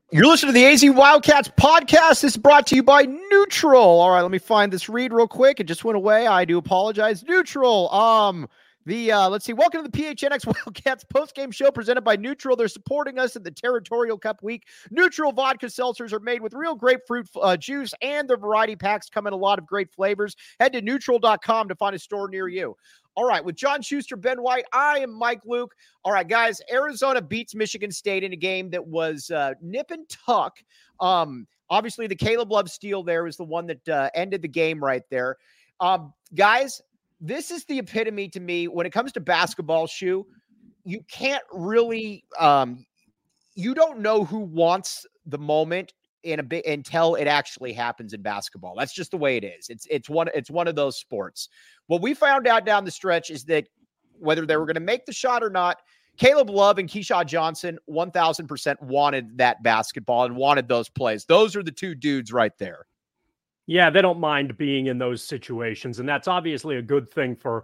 You're listening to the AZ Wildcats podcast. This is brought to you by Neutral. All right, let me find this read real quick. It just went away. I do apologize. Neutral. Let's see. Welcome to the PHNX Wildcats postgame show presented by Neutral. They're supporting us in the Territorial Cup week. Neutral vodka seltzers are made with real grapefruit juice, and their variety packs come in a lot of great flavors. Head to neutral.com to find a store near you. All right, with John Schuster, Ben White, I am Mike Luke. All right, guys, Arizona beats Michigan State in a game that was nip and tuck. Obviously, the Caleb Love steal there was the one that ended the game right there. Guys, this is the epitome to me when it comes to basketball, Shu. You can't really you don't know who wants the moment in a bit until it actually happens in basketball. That's just the way it is. It's one of those sports. What we found out down the stretch is that whether they were going to make the shot or not, Caleb Love and Keyshawn Johnson 1,000% wanted that basketball and wanted those plays. Those are the two dudes right there. Yeah, they don't mind being in those situations, and that's obviously a good thing for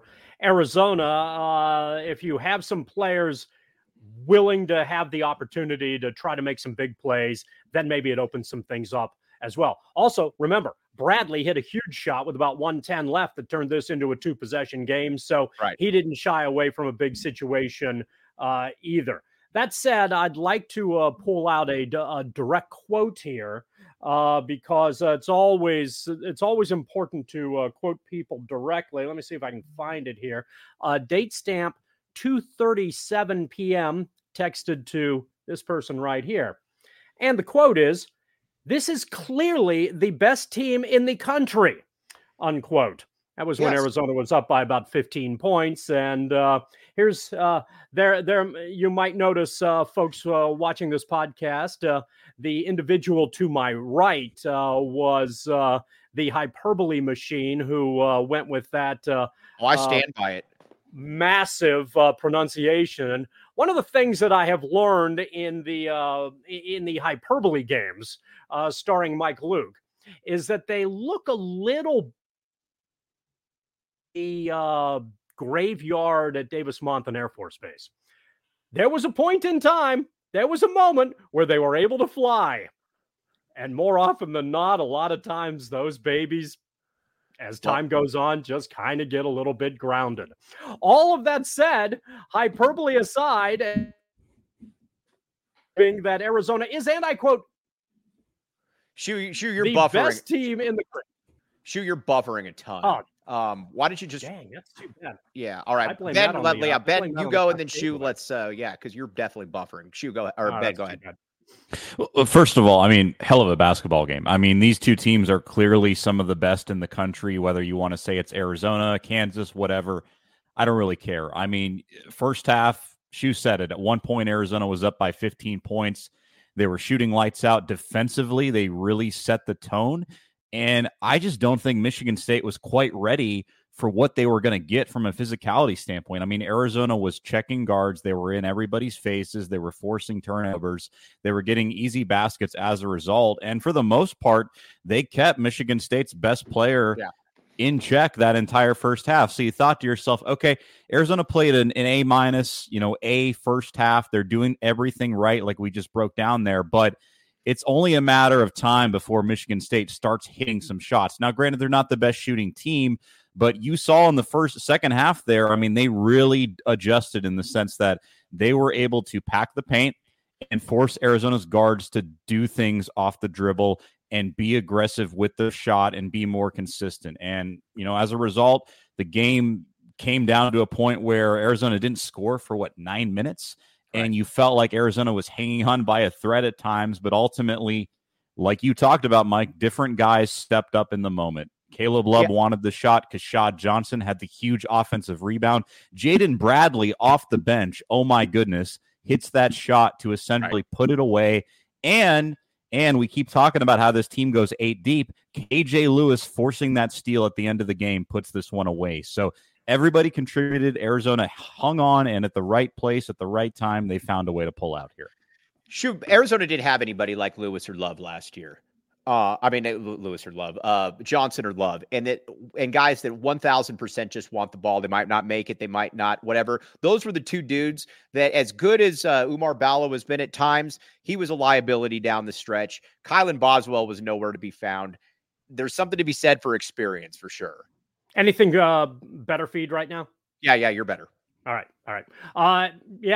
Arizona. If you have some players willing to have the opportunity to try to make some big plays, then maybe it opens some things up as well. Also, remember, Bradley hit a huge shot with about 1:10 left that turned this into a two-possession game, so He didn't shy away from a big situation either. That said, I'd like to pull out a direct quote here because it's always important to quote people directly. Let me see if I can find it here. Date stamp 2:37 p.m. texted to this person right here. And the quote is, "This is clearly the best team in the country," unquote. That was when Arizona was up by about 15 points. And here's there. You might notice, folks watching this podcast, the individual to my right was the hyperbole machine who went with that. I stand by it. Massive pronunciation. One of the things that I have learned in the hyperbole games, starring Mike Luke, is that they look a little graveyard at Davis-Monthan Air Force Base. There was a point in time, there was a moment where they were able to fly. And more often than not, a lot of times those babies, as time goes on, just kind of get a little bit grounded. All of that said, hyperbole aside, being that Arizona is, and I quote, Shu, you're the buffering. Best team in the country. Shu, you're buffering a ton. Why don't you just? Dang, that's too bad. Yeah, all right. Ben, you go, and then Shu. Let's because you're definitely buffering. Shu, go or Ben, go ahead. Well, first of all, I mean, hell of a basketball game. I mean, these two teams are clearly some of the best in the country, whether you want to say it's Arizona, Kansas, whatever. I don't really care. I mean, first half, Shu said it. At one point, Arizona was up by 15 points. They were shooting lights out defensively. They really set the tone. And I just don't think Michigan State was quite ready for what they were going to get from a physicality standpoint. I mean, Arizona was checking guards. They were in everybody's faces. They were forcing turnovers. They were getting easy baskets as a result. And for the most part, they kept Michigan State's best player in check that entire first half. So you thought to yourself, okay, Arizona played an A-, A first half. They're doing everything right, like we just broke down there. But it's only a matter of time before Michigan State starts hitting some shots. Now, granted, they're not the best shooting team, but you saw in the second half there, I mean, they really adjusted in the sense that they were able to pack the paint and force Arizona's guards to do things off the dribble and be aggressive with the shot and be more consistent. And, as a result, the game came down to a point where Arizona didn't score for 9 minutes. And you felt like Arizona was hanging on by a thread at times, but ultimately, like you talked about, Mike, different guys stepped up in the moment. Caleb Love wanted the shot. Keyshawn Johnson had the huge offensive rebound. Jaden Bradley off the bench, oh my goodness, hits that shot to essentially put it away. And we keep talking about how this team goes 8 deep. KJ Lewis forcing that steal at the end of the game puts this one away. So everybody contributed. Arizona hung on, and at the right place at the right time, they found a way to pull out here. Sure, Arizona didn't have anybody like Lewis or Love last year. Lewis or Love, Johnson or Love, and guys that 1000% just want the ball. They might not make it. They might not, whatever. Those were the two dudes that, as good as Oumar Ballo has been at times, he was a liability down the stretch. Kylan Boswell was nowhere to be found. There's something to be said for experience, for sure. Anything better feed right now? Yeah, you're better. All right.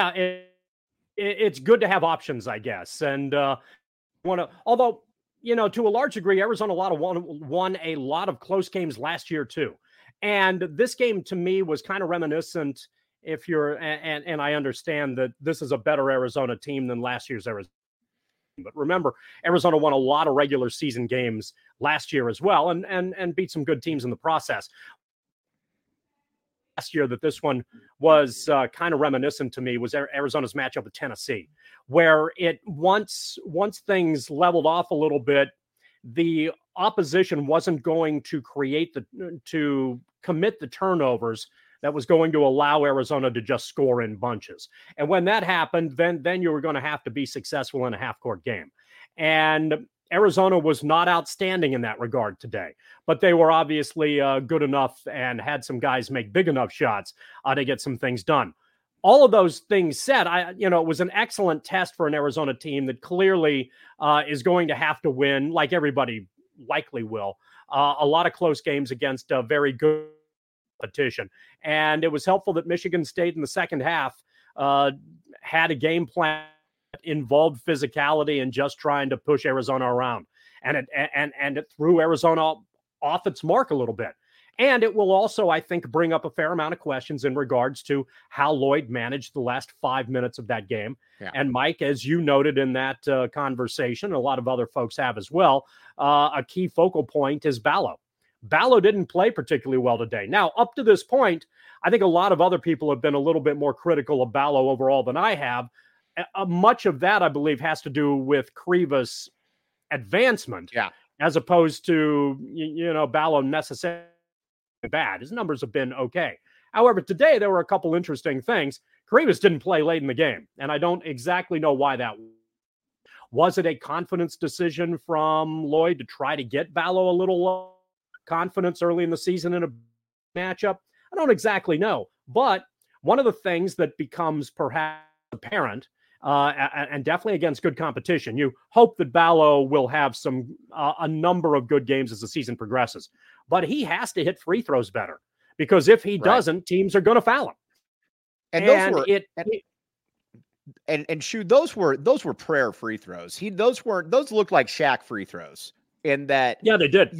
It's good to have options, I guess. And although, to a large degree, Arizona won a lot of close games last year too. And this game to me was kind of reminiscent. And I understand that this is a better Arizona team than last year's Arizona. But remember, Arizona won a lot of regular season games last year as well, and beat some good teams in the process. Last year that this one was kind of reminiscent to me was Arizona's matchup with Tennessee, where once things leveled off a little bit, the opposition wasn't going to commit the turnovers that was going to allow Arizona to just score in bunches. And when that happened, then you were going to have to be successful in a half-court game. And Arizona was not outstanding in that regard today, but they were obviously good enough and had some guys make big enough shots to get some things done. All of those things said, it was an excellent test for an Arizona team that clearly is going to have to win, like everybody likely will, a lot of close games against a very good competition. And it was helpful that Michigan State in the second half had a game plan that involved physicality and just trying to push Arizona around. And it threw Arizona off its mark a little bit. And it will also, I think, bring up a fair amount of questions in regards to how Lloyd managed the last 5 minutes of that game. Yeah. And Mike, as you noted in that conversation, a lot of other folks have as well, a key focal point is Ballo. Ballo didn't play particularly well today. Now, up to this point, I think a lot of other people have been a little bit more critical of Ballo overall than I have. Much of that, I believe, has to do with Kriva's advancement, as opposed to, Ballo necessarily bad. His numbers have been okay. However, today there were a couple interesting things. Krivas didn't play late in the game, and I don't exactly know why that was. Was it a confidence decision from Lloyd to try to get Ballo a little confidence early in the season in a matchup? I don't exactly know. But one of the things that becomes perhaps apparent, and definitely against good competition, you hope that Ballo will have a number of good games as the season progresses. But he has to hit free throws better, because if he doesn't, teams are going to foul him. And those were prayer free throws. Those looked like Shaq free throws. In that, they did.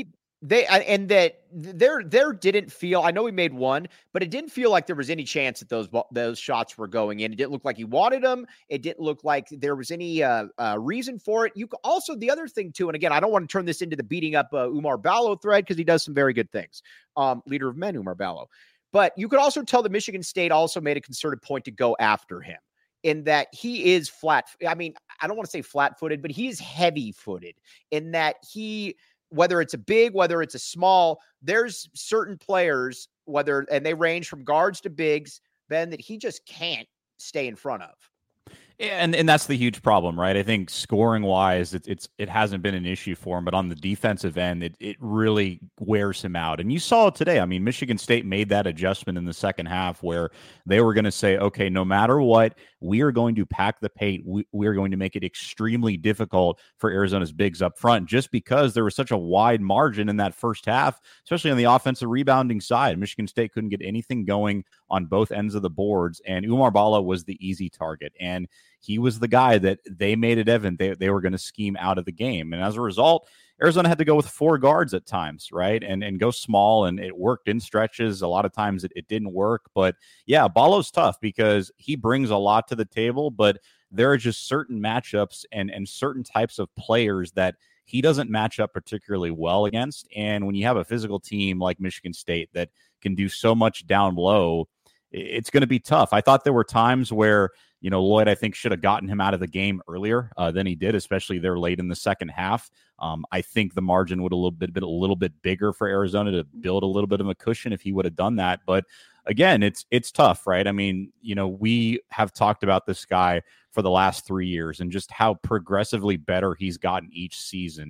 There didn't feel, I know he made one, but it didn't feel like there was any chance that those shots were going in. It didn't look like he wanted them. It didn't look like there was any reason for it. You also, the other thing too, and again, I don't want to turn this into the beating up Oumar Ballo thread, because he does some very good things. Leader of men, Oumar Ballo. But you could also tell that Michigan State also made a concerted point to go after him, in that he is I don't want to say flat-footed, but he is heavy-footed, in that whether it's a big, whether it's a small, there's certain players, and they range from guards to bigs, Ben, that he just can't stay in front of. And that's the huge problem, right? I think scoring wise, it hasn't been an issue for him, but on the defensive end, it really wears him out. And you saw it today. I mean, Michigan State made that adjustment in the second half where they were going to say, okay, no matter what, we are going to pack the paint. We are going to make it extremely difficult for Arizona's bigs up front, just because there was such a wide margin in that first half, especially on the offensive rebounding side. Michigan State couldn't get anything going on both ends of the boards, and Oumar Ballo was the easy target. And he was the guy that they made it evident they were going to scheme out of the game. And as a result, Arizona had to go with 4 guards at times, right? And go small, and it worked in stretches. A lot of times it didn't work. But yeah, Ballo's tough because he brings a lot to the table, but there are just certain matchups and certain types of players that he doesn't match up particularly well against. And when you have a physical team like Michigan State that can do so much down low, it's going to be tough. I thought there were times where, Lloyd, I think, should have gotten him out of the game earlier than he did, especially there late in the second half. I think the margin would have been a little bit bigger for Arizona to build a little bit of a cushion if he would have done that. But again, it's tough, right? I mean, we have talked about this guy for the last 3 years and just how progressively better he's gotten each season.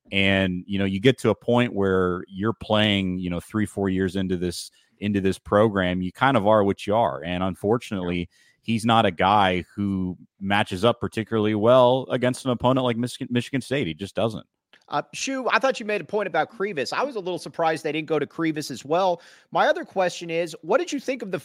And, you get to a point where you're playing, 3-4 years into this program, you kind of are what you are. And unfortunately, he's not a guy who matches up particularly well against an opponent like Michigan State. He just doesn't. Shu, I thought you made a point about Krivas. I was a little surprised they didn't go to Krivas as well. My other question is, what did you think of the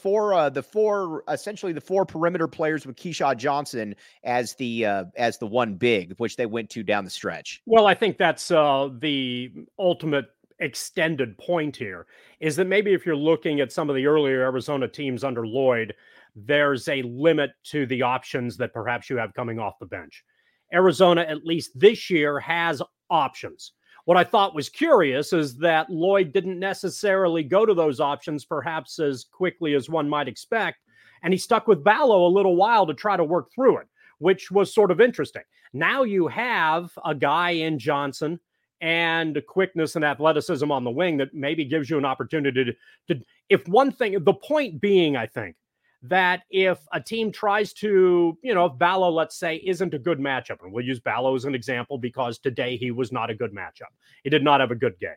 four perimeter players with Keyshawn Johnson as the one big, which they went to down the stretch? Well, I think that's the ultimate extended point here, is that maybe if you're looking at some of the earlier Arizona teams under Lloyd, there's a limit to the options that perhaps you have coming off the bench. Arizona, at least this year, has options. What I thought was curious is that Lloyd didn't necessarily go to those options perhaps as quickly as one might expect, and he stuck with Ballo a little while to try to work through it, which was sort of interesting. Now you have a guy in Johnson and quickness and athleticism on the wing that maybe gives you an opportunity to if one thing, the point being, I think, that if a team tries to, if Ballo, let's say, isn't a good matchup, and we'll use Ballo as an example because today he was not a good matchup. He did not have a good game.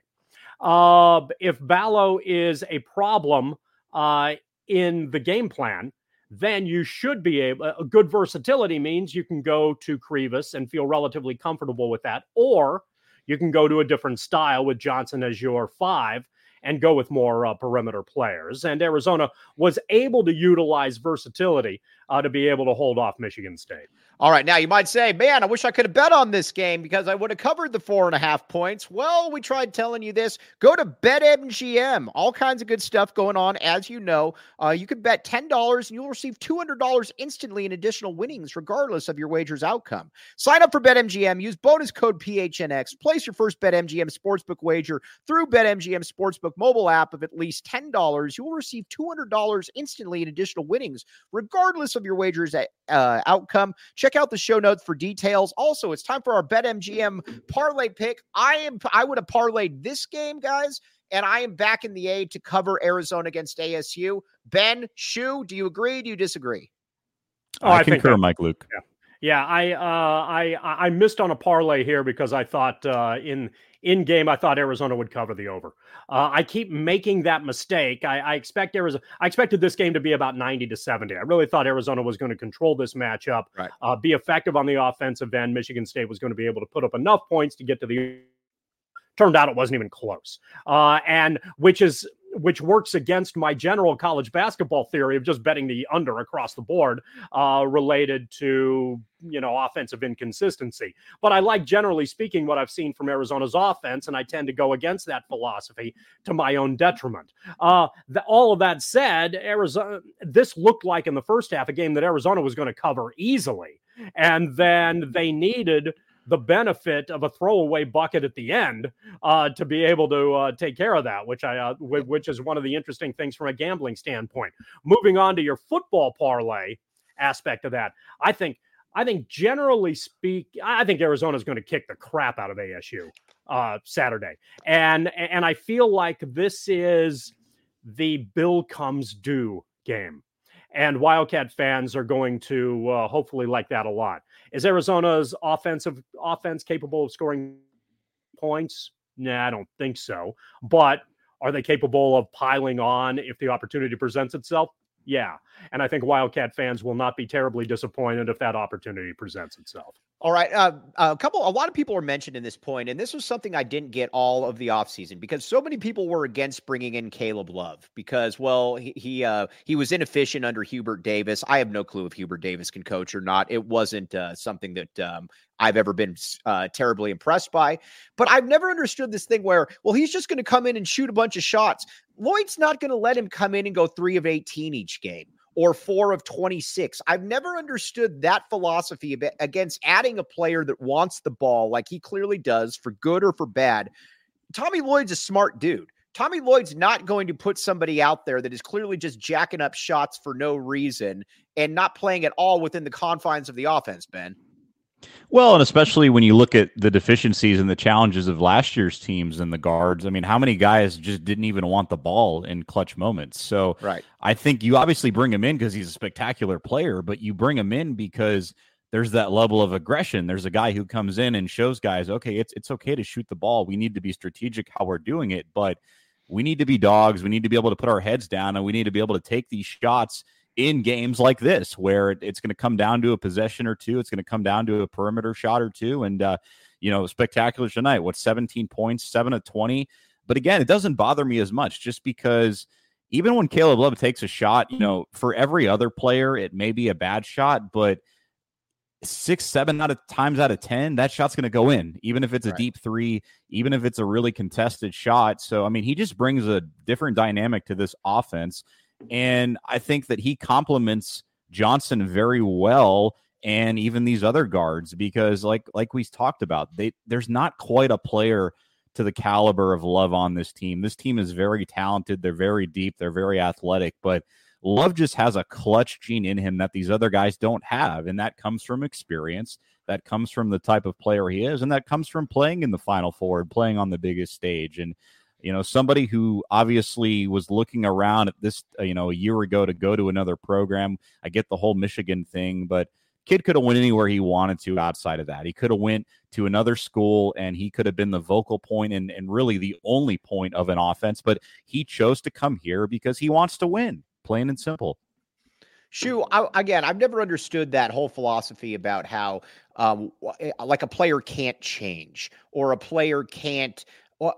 If Ballo is a problem in the game plan, then you should be able, a good versatility means you can go to Krivas and feel relatively comfortable with that, or you can go to a different style with Johnson as your 5 and go with more perimeter players. And Arizona was able to utilize versatility to be able to hold off Michigan State. All right. Now you might say, man, I wish I could have bet on this game because I would have covered the 4.5 points. Well, we tried telling you this. Go to BetMGM. All kinds of good stuff going on. As you know, you can bet $10 and you'll receive $200 instantly in additional winnings, regardless of your wager's outcome. Sign up for BetMGM. Use bonus code PHNX. Place your first BetMGM sportsbook wager through BetMGM Sportsbook mobile app of at least $10. You will receive $200 instantly in additional winnings, regardless of your wager's outcome. Check out the show notes for details. Also, it's time for our BetMGM parlay pick. I would have parlayed this game, guys, and I am back in the A to cover Arizona against ASU. Ben, Shu, do you agree? Do you disagree? I concur, Mike Luke. Yeah, I missed on a parlay here because I thought in game I thought Arizona would cover the over. I keep making that mistake. I expected this game to be about 90-70. I really thought Arizona was going to control this matchup, right. Be effective on the offensive end. Michigan State was going to be able to put up enough points to get to the. Turned out it wasn't even close, and which works against my general college basketball theory of just betting the under across the board related to, offensive inconsistency. But I like, generally speaking, what I've seen from Arizona's offense, and I tend to go against that philosophy to my own detriment. All of that said, Arizona, this looked like in the first half a game that Arizona was going to cover easily. And then they needed the benefit of a throwaway bucket at the end to be able to take care of that, which is one of the interesting things from a gambling standpoint. Moving on to your football parlay aspect of that, I think generally speaking, I think Arizona is going to kick the crap out of ASU Saturday, and I feel like this is the bill comes due game. And Wildcat fans are going to hopefully like that a lot. Is Arizona's offense capable of scoring points? Nah, I don't think so. But are they capable of piling on if the opportunity presents itself? Yeah. And I think Wildcat fans will not be terribly disappointed if that opportunity presents itself. All right. A lot of people are mentioned in this point, and this was something I didn't get all of the offseason because so many people were against bringing in Caleb Love because, well, he was inefficient under Hubert Davis. I have no clue if Hubert Davis can coach or not. It wasn't something that I've ever been terribly impressed by, but I've never understood this thing where, well, he's just going to come in and shoot a bunch of shots. Lloyd's not going to let him come in and go 3 of 18 each game or 4 of 26. I've never understood that philosophy against adding a player that wants the ball like he clearly does, for good or for bad. Tommy Lloyd's a smart dude. Tommy Lloyd's not going to put somebody out there that is clearly just jacking up shots for no reason and not playing at all within the confines of the offense, Ben. Well, and especially when you look at the deficiencies and the challenges of last year's teams and the guards. I mean, how many guys just didn't even want the ball in clutch moments? So right. I think you obviously bring him in because he's a spectacular player, but you bring him in because there's that level of aggression. There's a guy who comes in and shows guys, okay, it's okay to shoot the ball. We need to be strategic how we're doing it, but we need to be dogs. We need to be able to put our heads down, and we need to be able to take these shots in games like this, where it's going to come down to a possession or two. It's going to come down to a perimeter shot or two. And, spectacular tonight. 17 points, 7 of 20. But again, it doesn't bother me as much, just because even when Caleb Love takes a shot, for every other player, it may be a bad shot, but 6-7 times out of 10, that shot's going to go in, even if it's a deep three, even if it's a really contested shot. So, I mean, he just brings a different dynamic to this offense. And I think that he complements Johnson very well, and even these other guards, because like we talked about, there's not quite a player to the caliber of Love on this team. This team is very talented. They're very deep. They're very athletic, but Love just has a clutch gene in him that these other guys don't have. And that comes from experience. That comes from the type of player he is. And that comes from playing in the Final Four and playing on the biggest stage. And, somebody who obviously was looking around at this, a year ago to go to another program. I get the whole Michigan thing, but kid could have went anywhere he wanted to outside of that. He could have went to another school, and he could have been the vocal point and really the only point of an offense. But he chose to come here because he wants to win, plain and simple. Shu, I've never understood that whole philosophy about how like a player can't change or a player can't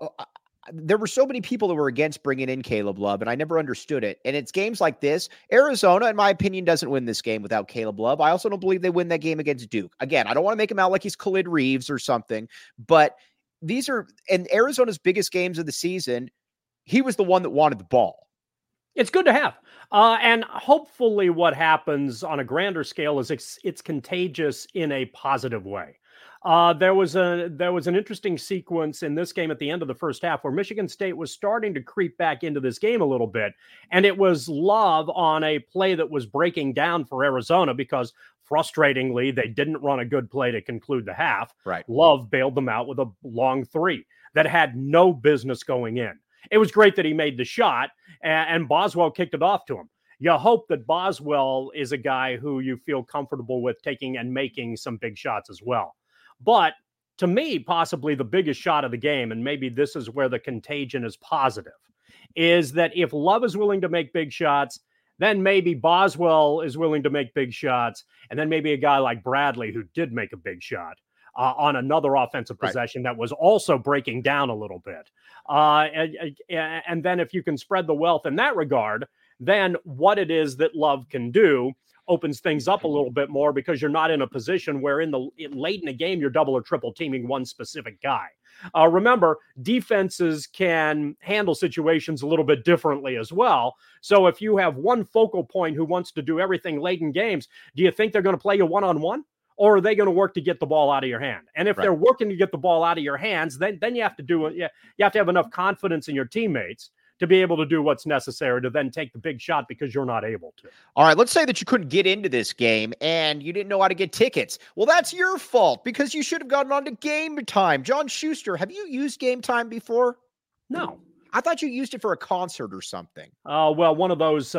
there were so many people that were against bringing in Caleb Love, and I never understood it. And it's games like this. Arizona, in my opinion, doesn't win this game without Caleb Love. I also don't believe they win that game against Duke. Again, I don't want to make him out like he's Khalid Reeves or something, but these are in Arizona's biggest games of the season. He was the one that wanted the ball. It's good to have. And hopefully what happens on a grander scale is it's contagious in a positive way. There was an interesting sequence in this game at the end of the first half where Michigan State was starting to creep back into this game a little bit. And it was Love on a play that was breaking down for Arizona because, frustratingly, they didn't run a good play to conclude the half. Right. Love bailed them out with a long three that had no business going in. It was great that he made the shot, and Boswell kicked it off to him. You hope that Boswell is a guy who you feel comfortable with taking and making some big shots as well. But to me, possibly the biggest shot of the game, and maybe this is where the contagion is positive, is that if Love is willing to make big shots, then maybe Boswell is willing to make big shots, and then maybe a guy like Bradley, who did make a big shot on another offensive possession that was also breaking down a little bit. And then if you can spread the wealth in that regard, then what it is that Love can do opens things up a little bit more, because you're not in a position where late in the game, you're double or triple teaming one specific guy. Remember, defenses can handle situations a little bit differently as well. So if you have one focal point who wants to do everything late in games, do you think they're going to play you one-on-one? Or are they going to work to get the ball out of your hand? And if they're working to get the ball out of your hands, then you have to do it. You have to have enough confidence in your teammates to be able to do what's necessary to then take the big shot because you're not able to. All right, let's say that you couldn't get into this game and you didn't know how to get tickets. Well, that's your fault, because you should have gotten on to Game Time. John Schuster, have you used Game Time before? No. I thought you used it for a concert or something. Well, one of those,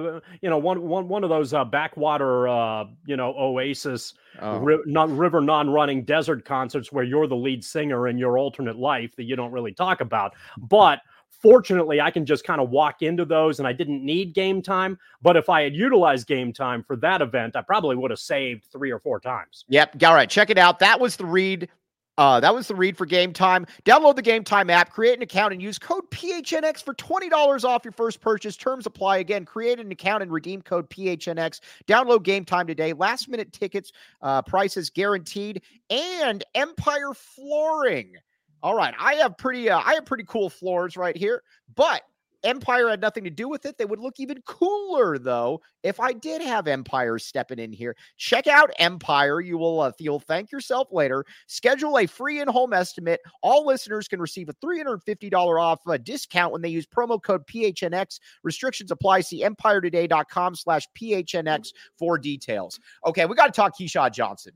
one of those backwater, Oasis, river non-running desert concerts where you're the lead singer in your alternate life that you don't really talk about. But fortunately, I can just kind of walk into those, and I didn't need Game Time. But if I had utilized Game Time for that event, I probably would have saved 3 or 4 times. Yep. All right. Check it out. That was the read. That was the read for Game Time. Download the Game Time app, create an account, and use code PHNX for $20 off your first purchase. Terms apply. Again, create an account and redeem code PHNX. Download Game Time today. Last minute tickets, prices guaranteed, and Empire Flooring. All right, I have pretty cool floors right here, but Empire had nothing to do with it. They would look even cooler, though, if I did have Empire stepping in here. Check out Empire. You'll thank yourself later. Schedule a free in-home estimate. All listeners can receive a $350 off discount when they use promo code PHNX. Restrictions apply. See empiretoday.com/PHNX for details. Okay, we got to talk Keyshawn Johnson.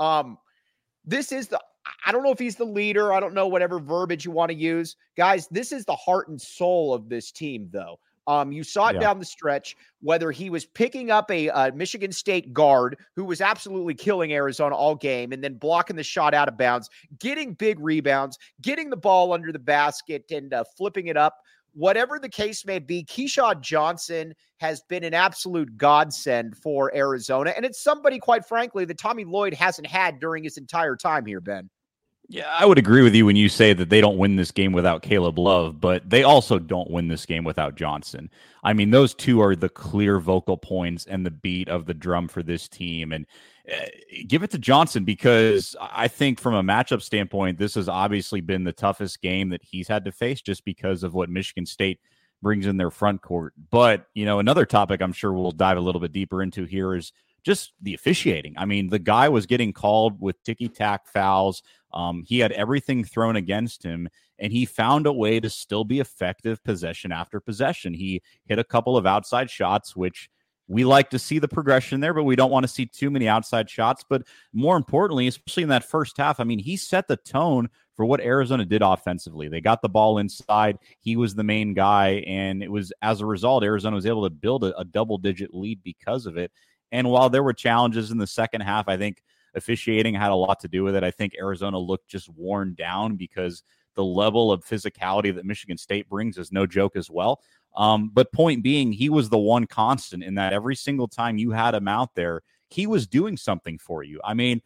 This is I don't know if he's the leader. I don't know, whatever verbiage you want to use. Guys, this is the heart and soul of this team, though. You saw it down the stretch, whether he was picking up a Michigan State guard who was absolutely killing Arizona all game and then blocking the shot out of bounds, getting big rebounds, getting the ball under the basket and flipping it up. Whatever the case may be, Keshad Johnson has been an absolute godsend for Arizona. And it's somebody, quite frankly, that Tommy Lloyd hasn't had during his entire time here, Ben. Yeah, I would agree with you when you say that they don't win this game without Caleb Love, but they also don't win this game without Johnson. I mean, those two are the clear vocal points and the beat of the drum for this team. And give it to Johnson, because I think from a matchup standpoint, this has obviously been the toughest game that he's had to face just because of what Michigan State brings in their front court. But, you know, another topic I'm sure we'll dive a little bit deeper into here is just the officiating. I mean, the guy was getting called with ticky-tack fouls. He had everything thrown against him, and he found a way to still be effective possession after possession. He hit a couple of outside shots, which we like to see the progression there, but we don't want to see too many outside shots. But more importantly, especially in that first half, I mean, he set the tone for what Arizona did offensively. They got the ball inside. He was the main guy, and it was as a result, Arizona was able to build a double-digit lead because of it. And while there were challenges in the second half, I think officiating had a lot to do with it. I think Arizona looked just worn down because the level of physicality that Michigan State brings is no joke as well. But point being, he was the one constant in that every single time you had him out there, he was doing something for you. I mean,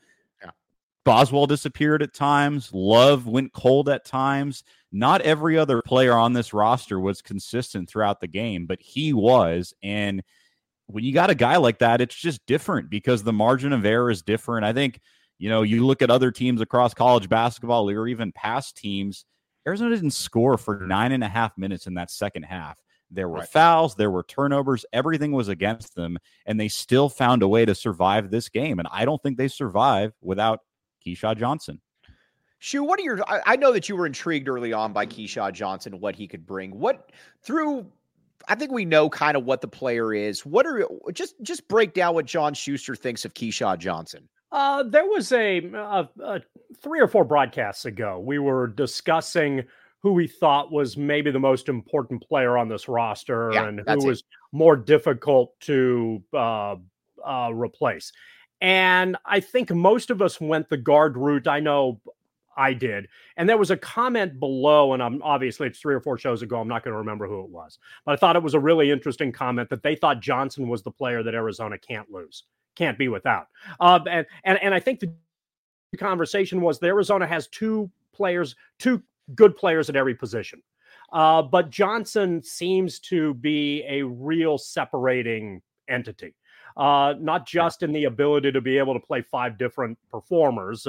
Boswell disappeared at times. Love went cold at times. Not every other player on this roster was consistent throughout the game, but he was. And when you got a guy like that, it's just different because the margin of error is different. I think, you know, you look at other teams across college basketball or even past teams, Arizona didn't score for 9.5 minutes in that second half. There were fouls, there were turnovers, everything was against them, and they still found a way to survive this game. And I don't think they survive without Keshad Johnson. Shu, what are your, I know that you were intrigued early on by Keshad Johnson, what he could bring. I think we know kind of what the player is. Just break down what John Schuster thinks of Keshad Johnson. There was a 3 or 4 broadcasts ago, we were discussing who we thought was maybe the most important player on this roster and who was more difficult to replace. And I think most of us went the guard route. I know I did. And there was a comment below, and obviously it's 3 or 4 shows ago. I'm not going to remember who it was, but I thought it was a really interesting comment that they thought Johnson was the player that Arizona can't lose, can't be without. And I think the conversation was that Arizona has 2 good players at every position. But Johnson seems to be a real separating entity. Not just in the ability to be able to play 5 different performers,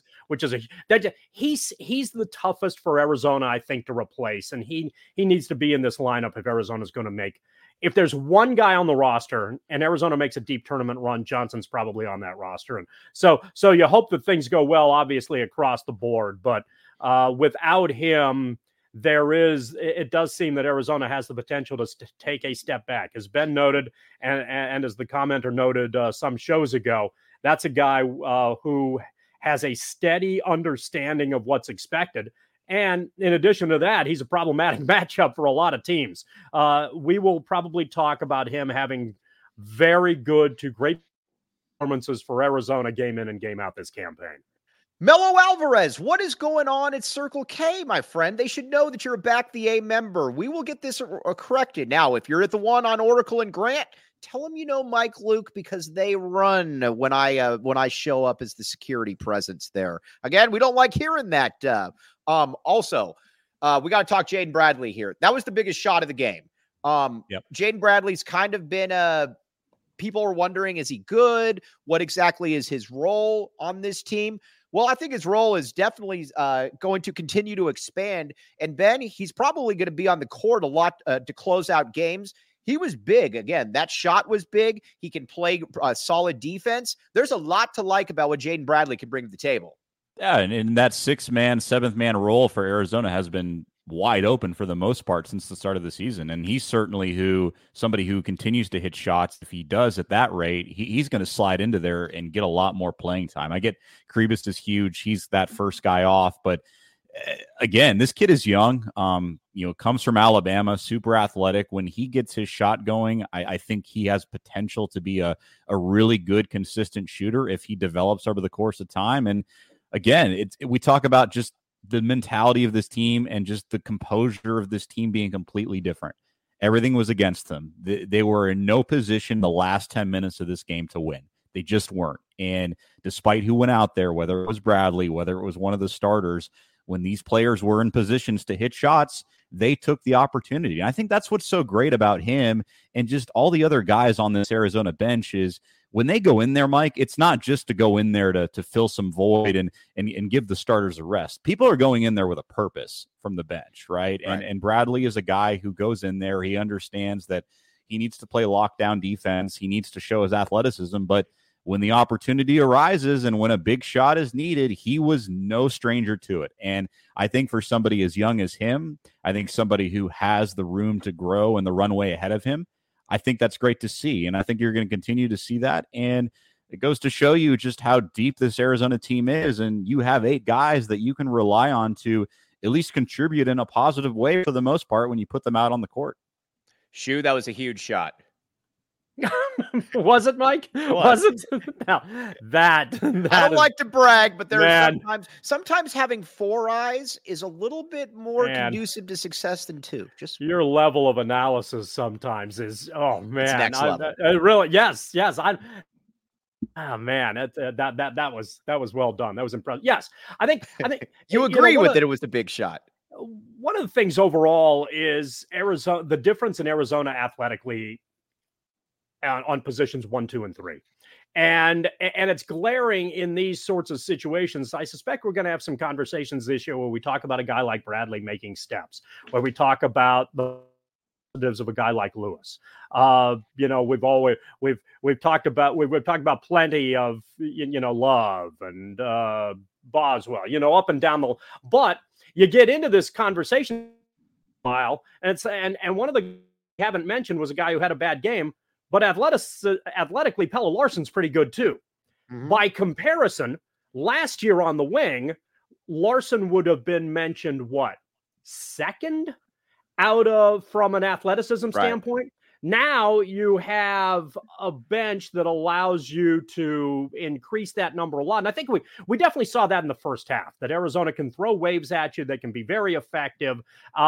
he's the toughest for Arizona, I think, to replace, and he needs to be in this lineup if Arizona's going to make. If there's one guy on the roster and Arizona makes a deep tournament run, Johnson's probably on that roster, and so you hope that things go well, obviously across the board, but without him, it does seem that Arizona has the potential to take a step back. As Ben noted, and as the commenter noted some shows ago, that's a guy who has a steady understanding of what's expected. And in addition to that, he's a problematic matchup for a lot of teams. We will probably talk about him having very good to great performances for Arizona game in and game out this campaign. Melo Alvarez, what is going on at Circle K, my friend? They should know that you're a Back the A member. We will get this corrected. Now, if you're at the one on Oracle and Grant, tell them you know Mike Luke because they run when I show up as the security presence there. Again, we don't like hearing that. Also, we got to talk Jaden Bradley here. That was the biggest shot of the game. Jaden Bradley's kind of been people are wondering, is he good? What exactly is his role on this team? Well, I think his role is definitely going to continue to expand. And Ben, he's probably going to be on the court a lot to close out games. He was big. Again, that shot was big. He can play solid defense. There's a lot to like about what Jaden Bradley can bring to the table. Yeah, and that 6-man, 7th-man role for Arizona has been wide open for the most part since the start of the season. And he's certainly somebody who continues to hit shots. If he does at that rate, he's going to slide into there and get a lot more playing time. I get Kribis is huge. He's that first guy off. But again, this kid is young. comes from Alabama, super athletic. When he gets his shot going, I think he has potential to be a really good, consistent shooter if he develops over the course of time. And again, we talk about just the mentality of this team and just the composure of this team being completely different. Everything was against them. They were in no position the last 10 minutes of this game to win. They just weren't. And despite who went out there, whether it was Bradley, whether it was one of the starters, when these players were in positions to hit shots, they took the opportunity. And I think that's what's so great about him and just all the other guys on this Arizona bench is when they go in there, Mike, it's not just to go in there to fill some void and give the starters a rest. People are going in there with a purpose from the bench, right? And Bradley is a guy who goes in there. He understands that he needs to play lockdown defense. He needs to show his athleticism. But when the opportunity arises and when a big shot is needed, he was no stranger to it. And I think for somebody as young as him, I think somebody who has the room to grow and the runway ahead of him, I think that's great to see. And I think you're going to continue to see that. And it goes to show you just how deep this Arizona team is. And you have 8 guys that you can rely on to at least contribute in a positive way for the most part when you put them out on the court. Shoe, that was a huge shot. Was it, Mike? Was it? No, that I don't like to brag, but there are sometimes having 4 eyes is a little bit more conducive to success than 2. Just your level of analysis sometimes is it's next level. Really, yes. Oh man, that was well done. That was impressive. Yes, I think you agree with it. It was the big shot. One of the things overall is Arizona. The difference in Arizona athletically on positions 1, 2, and 3. And it's glaring in these sorts of situations. I suspect we're going to have some conversations this year where we talk about a guy like Bradley making steps, where we talk about the positives of a guy like Lewis. We've talked about plenty of Love and Boswell, up and down but you get into this conversation and one of the you haven't mentioned was a guy who had a bad game. But athletically, Pelle Larsson's pretty good too. Mm-hmm. By comparison, last year on the wing, Larsson would have been mentioned second from an athleticism standpoint. Now you have a bench that allows you to increase that number a lot. And I think we definitely saw that in the first half, that Arizona can throw waves at you. They can be very effective.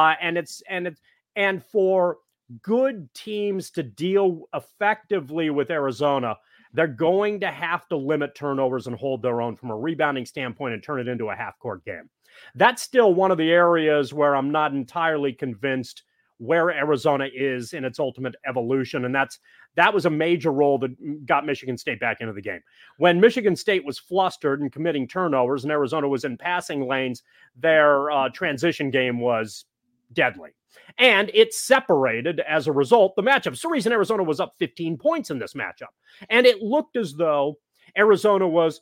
And for good teams to deal effectively with Arizona, they're going to have to limit turnovers and hold their own from a rebounding standpoint and turn it into a half-court game. That's still one of the areas where I'm not entirely convinced where Arizona is in its ultimate evolution, and that was a major role that got Michigan State back into the game. When Michigan State was flustered and committing turnovers and Arizona was in passing lanes, their transition game was deadly. And it separated, as a result, the matchup. It's the reason Arizona was up 15 points in this matchup. And it looked as though Arizona was,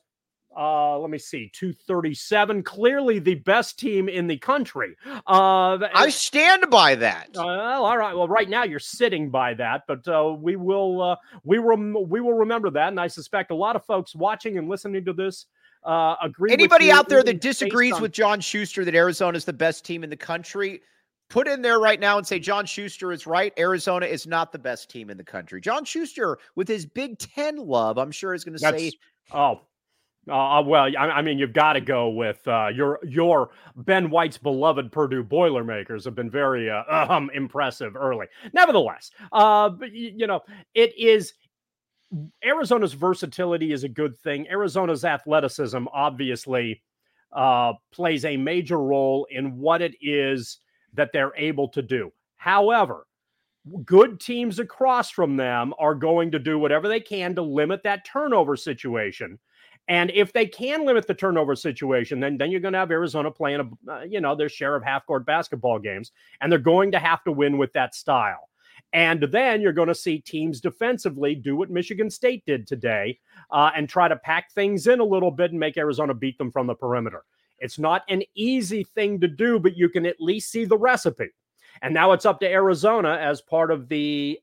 237, clearly the best team in the country. I stand by that. All right. Well, right now you're sitting by that, but we will remember that. And I suspect a lot of folks watching and listening to this agree. Anybody out there that disagrees with John Schuster that Arizona is the best team in the country, put in there right now and say John Schuster is right. Arizona is not the best team in the country. John Schuster, with his Big Ten love, I'm sure is going to say. Well, I mean, you've got to go with your Ben White's beloved Purdue Boilermakers have been very impressive early. Nevertheless, it is. Arizona's versatility is a good thing. Arizona's athleticism obviously plays a major role in what it is that they're able to do. However, good teams across from them are going to do whatever they can to limit that turnover situation. And if they can limit the turnover situation, then you're going to have Arizona playing their share of half-court basketball games, and they're going to have to win with that style. And then you're going to see teams defensively do what Michigan State did today and try to pack things in a little bit and make Arizona beat them from the perimeter. It's not an easy thing to do, but you can at least see the recipe. And now it's up to Arizona as part of the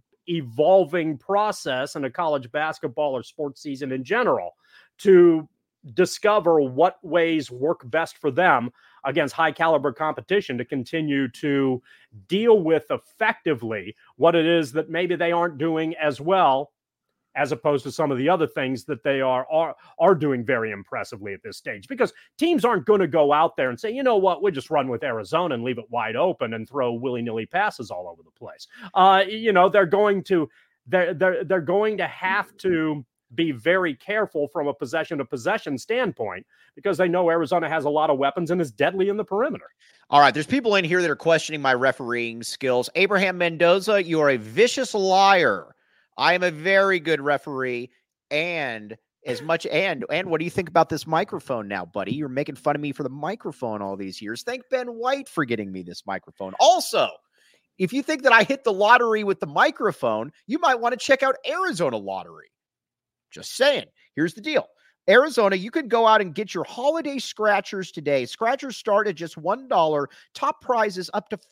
ever-evolving process in a college basketball or sports season in general to discover what ways work best for them against high caliber competition to continue to deal with effectively what it is that maybe they aren't doing as well, as opposed to some of the other things that they are doing very impressively at this stage. Because teams aren't going to go out there and say, you know what, we'll just run with Arizona and leave it wide open and throw willy-nilly passes all over the place. They're going to have to be very careful from a possession-to-possession standpoint, because they know Arizona has a lot of weapons and is deadly in the perimeter. All right, there's people in here that are questioning my refereeing skills. Abraham Mendoza, you are a vicious liar. I am a very good referee, and what do you think about this microphone now, buddy? You're making fun of me for the microphone all these years. Thank Ben White for getting me this microphone. Also, if you think that I hit the lottery with the microphone, you might want to check out Arizona Lottery. Just saying. Here's the deal. Arizona, you can go out and get your holiday scratchers today. Scratchers start at just $1. Top prizes up to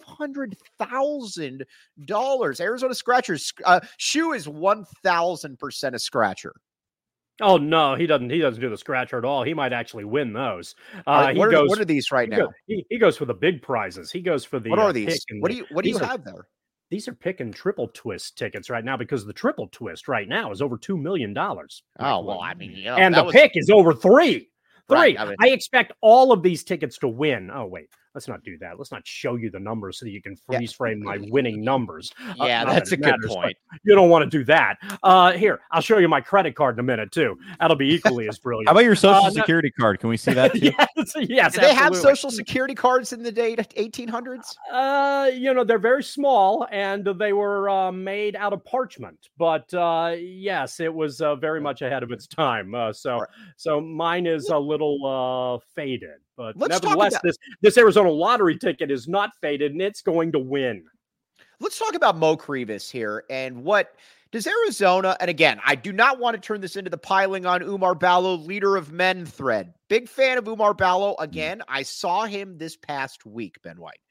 $500,000. Arizona Scratchers. Shoe is 1,000% a scratcher. Oh no, he doesn't do the scratcher at all. He might actually win those. What are these right now? He goes for the big prizes. He goes for the. What are these? What do you have there? These are pick and triple twist tickets right now, because the triple twist right now is over $2 million. Oh, well, I mean, and the pick is over $3. Right, I expect all of these tickets to win. Oh, wait, let's not do that. Let's not show you the numbers so that you can freeze frame my winning numbers. Yeah, that's a good point. You don't want to do that. Here, I'll show you my credit card in a minute, too. That'll be equally as brilliant. How about your social security card? Can we see that, too? Yes, Did they have social security cards in the 1800s? They're very small, and they were made out of parchment. But yes, it was very much ahead of its time. So mine is a little faded, but nevertheless, this Arizona Lottery ticket is not faded, and it's going to win. Let's talk about Mo Krivas here, and what does Arizona, and again, I do not want to turn this into the piling on Oumar Ballo leader of men thread. Big fan of Oumar Ballo. Again, I saw him this past week, Ben White.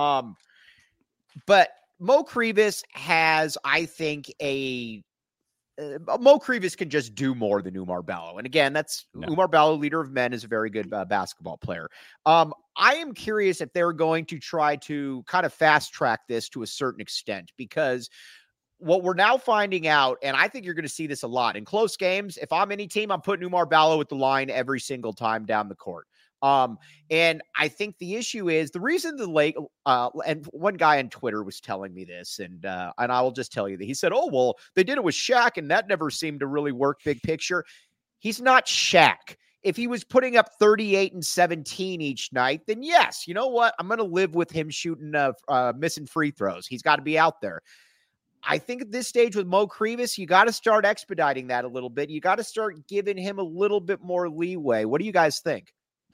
But Mo Krivas has, I think, Mo Krivas can just do more than Oumar Ballo. And again, Oumar Ballo, leader of men, is a very good basketball player. I am curious if they're going to try to kind of fast track this to a certain extent, because what we're now finding out, and I think you're going to see this a lot in close games, if I'm any team, I'm putting Oumar Ballo at the line every single time down the court. And I think the issue is the reason and one guy on Twitter was telling me this, and I will just tell you that he said, oh, well, they did it with Shaq, and that never seemed to really work big picture. He's not Shaq. If he was putting up 38 and 17 each night, then yes, you know what? I'm going to live with him shooting, missing free throws. He's got to be out there. I think at this stage with Mo Krivas, you got to start expediting that a little bit. You got to start giving him a little bit more leeway. What do you guys think?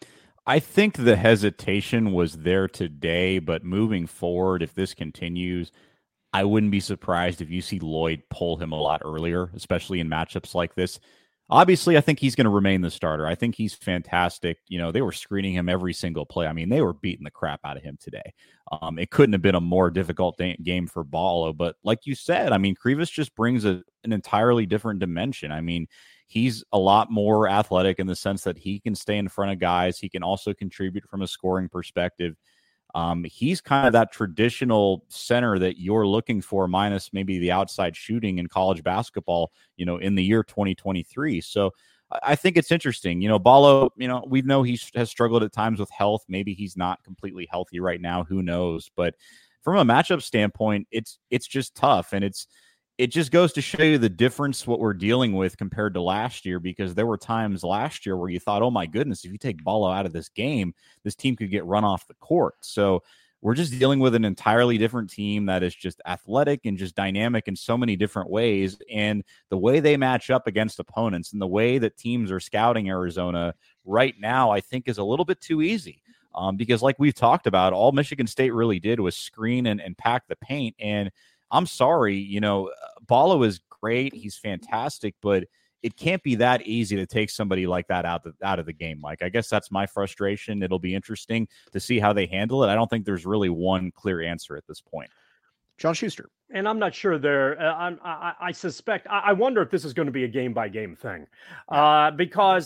I think the hesitation was there today, but moving forward, if this continues, I wouldn't be surprised if you see Lloyd pull him a lot earlier, especially in matchups like this. Obviously, I think he's going to remain the starter. I think he's fantastic. They were screening him every single play. I mean, they were beating the crap out of him today. It couldn't have been a more difficult game for Ballo. But like you said, I mean, Krivas just brings an entirely different dimension. I mean, he's a lot more athletic in the sense that he can stay in front of guys. He can also contribute from a scoring perspective. He's kind of that traditional center that you're looking for, minus maybe the outside shooting in college basketball, in the year 2023. So I think it's interesting. Ballo, we know he has struggled at times with health. Maybe he's not completely healthy right now. Who knows? But from a matchup standpoint, it's just tough. And it just goes to show you the difference what we're dealing with compared to last year, because there were times last year where you thought, oh my goodness, if you take Ballo out of this game, this team could get run off the court. So we're just dealing with an entirely different team that is just athletic and just dynamic in so many different ways. And the way they match up against opponents and the way that teams are scouting Arizona right now, I think is a little bit too easy. Because like we've talked about, all Michigan State really did was screen and pack the paint. And I'm sorry, Ballo is great. He's fantastic, but it can't be that easy to take somebody like that out of the game, Mike. I guess that's my frustration. It'll be interesting to see how they handle it. I don't think there's really one clear answer at this point. John Schuster. And I'm not sure I suspect, I wonder if this is going to be a game-by-game thing, because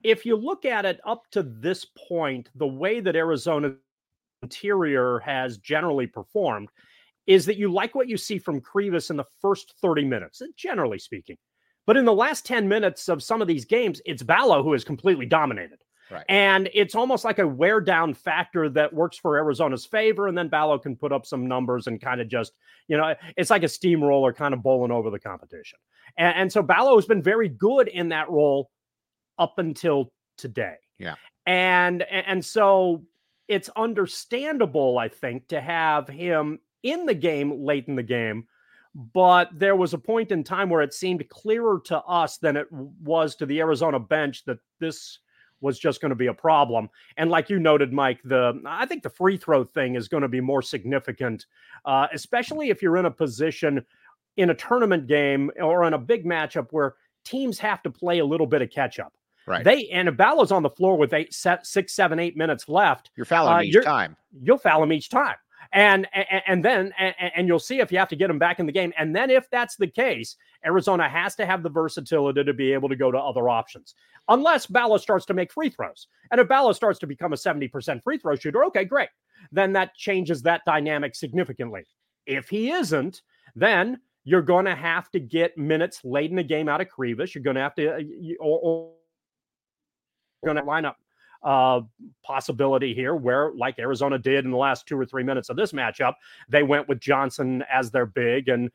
if you look at it up to this point, the way that Arizona interior has generally performed is that you like what you see from Krivas in the first 30 minutes, generally speaking. But in the last 10 minutes of some of these games, it's Ballo who is completely dominated. Right. And it's almost like a wear down factor that works for Arizona's favor. And then Ballo can put up some numbers and kind of just, it's like a steamroller kind of bowling over the competition. And so Ballo has been very good in that role up until today. Yeah. And so it's understandable, I think, to have him in the game late in the game. But there was a point in time where it seemed clearer to us than it was to the Arizona bench that this was just going to be a problem. And like you noted, Mike, I think the free throw thing is going to be more significant, especially if you're in a position in a tournament game or in a big matchup where teams have to play a little bit of catch up. Right. And if Ballo's on the floor with 6, 7, 8 minutes left, you're fouling each time. You'll foul him each time. And then you'll see if you have to get him back in the game. And then if that's the case, Arizona has to have the versatility to be able to go to other options. Unless Ballo starts to make free throws. And if Ballo starts to become a 70% free throw shooter, okay, great. Then that changes that dynamic significantly. If he isn't, then you're going to have to get minutes late in the game out of Krivas. You're going to have to or going to line up possibility here where, like Arizona did in the last 2 or 3 minutes of this matchup, they went with Johnson as their big and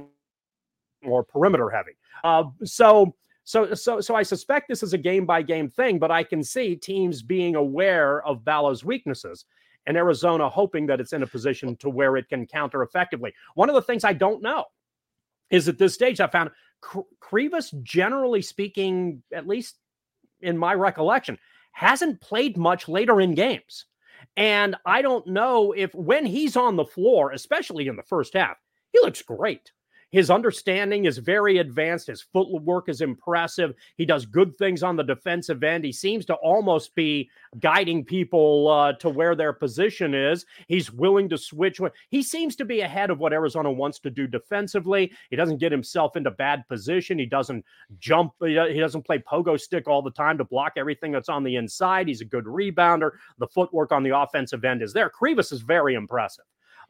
more perimeter heavy. So I suspect this is a game by game thing, but I can see teams being aware of Ballo's weaknesses and Arizona hoping that it's in a position to where it can counter effectively. One of the things I don't know is at this stage I found Krivas, generally speaking, at least in my recollection, hasn't played much later in games. And I don't know if when he's on the floor, especially in the first half, he looks great. His understanding is very advanced. His footwork is impressive. He does good things on the defensive end. He seems to almost be guiding people to where their position is. He's willing to switch. He seems to be ahead of what Arizona wants to do defensively. He doesn't get himself into bad position. He doesn't jump. He doesn't play pogo stick all the time to block everything that's on the inside. He's a good rebounder. The footwork on the offensive end is there. Krivas is very impressive.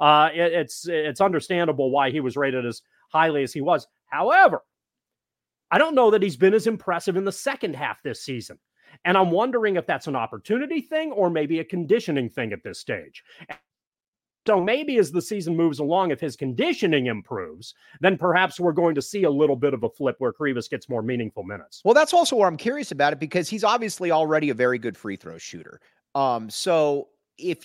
It's understandable why he was rated as highly as he was. However, I don't know that he's been as impressive in the second half this season. And I'm wondering if that's an opportunity thing or maybe a conditioning thing at this stage. So maybe as the season moves along, if his conditioning improves, then perhaps we're going to see a little bit of a flip where Krivas gets more meaningful minutes. Well, that's also where I'm curious about it because he's obviously already a very good free throw shooter. So if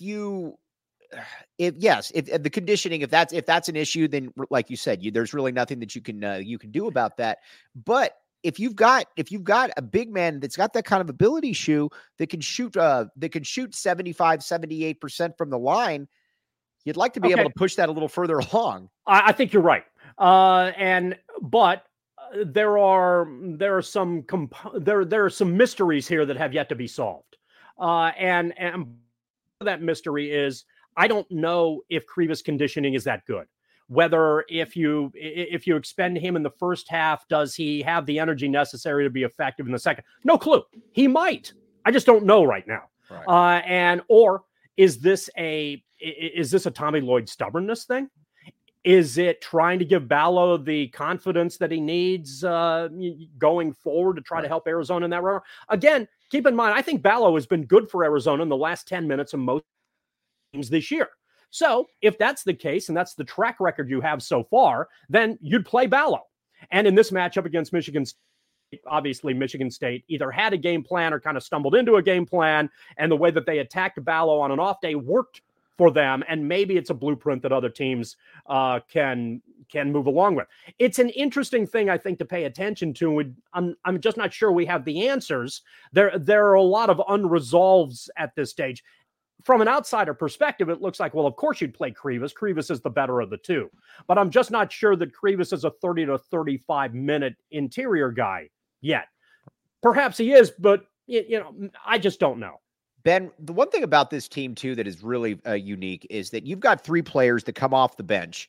the conditioning, if that's an issue, then like you said, there's really nothing that you can do about that. But if you've got a big man that's got that kind of ability shoe that can shoot 75, 78% from the line, you'd like to be able to push that a little further along. I think you're right. But there are some mysteries here that have yet to be solved. And that mystery is, I don't know if Krivas' conditioning is that good. Whether if you expend him in the first half, does he have the energy necessary to be effective in the second? No clue. He might. I just don't know right now. Right. Or is this a Tommy Lloyd stubbornness thing? Is it trying to give Ballo the confidence that he needs going forward to try to help Arizona in that round? Again, keep in mind, I think Ballo has been good for Arizona in the last 10 minutes of most games this year. So if that's the case, and that's the track record you have so far, then you'd play Ballo. And in this matchup against Michigan State, obviously Michigan State either had a game plan or kind of stumbled into a game plan, and the way that they attacked Ballo on an off day worked for them, and maybe it's a blueprint that other teams can move along with. It's an interesting thing, I think, to pay attention to. I'm just not sure we have the answers. There are a lot of unresolveds at this stage. From an outsider perspective, it looks like, well, of course you'd play Krivas. Krivas is the better of the two. But I'm just not sure that Krivas is a 30 to 35-minute interior guy yet. Perhaps he is, but I just don't know. Ben, the one thing about this team, too, that is really unique is that you've got three players that come off the bench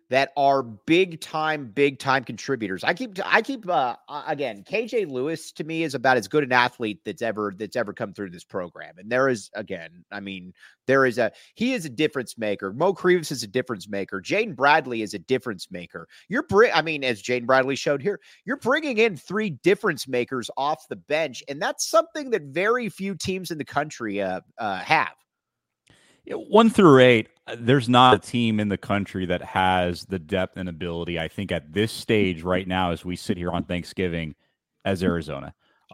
that are big time contributors. I keep again, KJ Lewis to me is about as good an athlete that's ever come through this program. And there is, again, I mean, he is a difference maker. Mo Crevis is a difference maker. Jaden Bradley is a difference maker. As Jaden Bradley showed here, you're bringing in 3 difference makers off the bench. And that's something that very few teams in the country have. 1 through 8, there's not a team in the country that has the depth and ability, I think, at this stage right now as we sit here on Thanksgiving, as Arizona.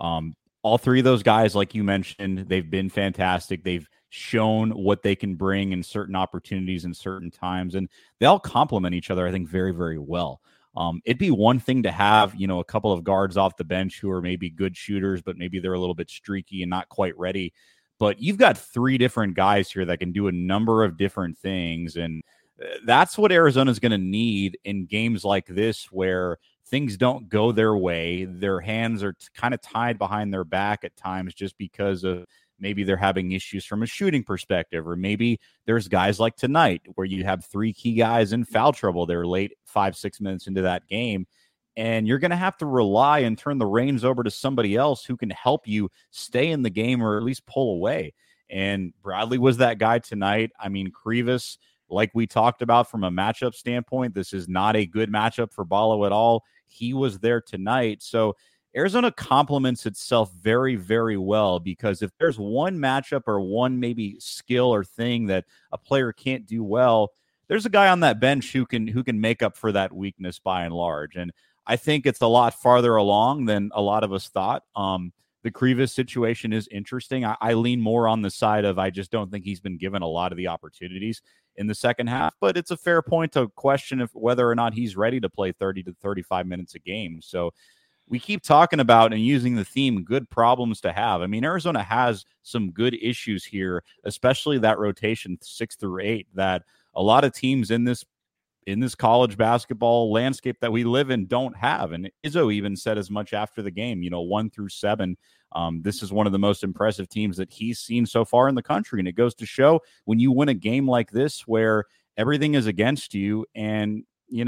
All 3 of those guys, like you mentioned, they've been fantastic. They've shown what they can bring in certain opportunities in certain times, and they all complement each other, I think, very, very well. It'd be one thing to have, a couple of guards off the bench who are maybe good shooters, but maybe they're a little bit streaky and not quite ready. But you've got 3 different guys here that can do a number of different things. And that's what Arizona is going to need in games like this, where things don't go their way. Their hands are kind of tied behind their back at times just because of maybe they're having issues from a shooting perspective, or maybe there's guys like tonight where you have 3 key guys in foul trouble. They're late 5-6 minutes into that game. And you're going to have to rely and turn the reins over to somebody else who can help you stay in the game or at least pull away. And Bradley was that guy tonight. I mean, Crevis, like we talked about from a matchup standpoint, this is not a good matchup for Ballo at all. He was there tonight. So Arizona complements itself very, very well, because if there's one matchup or one maybe skill or thing that a player can't do well, there's a guy on that bench who can make up for that weakness by and large. And I think it's a lot farther along than a lot of us thought. The Crevis situation is interesting. I lean more on the side of I just don't think he's been given a lot of the opportunities in the second half, but it's a fair point to question whether or not he's ready to play 30 to 35 minutes a game. So we keep talking about and using the theme, good problems to have. I mean, Arizona has some good issues here, especially that rotation 6 through 8 that a lot of teams in this college basketball landscape that we live in don't have. And Izzo even said as much after the game, 1 through 7. This is one of the most impressive teams that he's seen so far in the country. And it goes to show when you win a game like this, where everything is against you, and,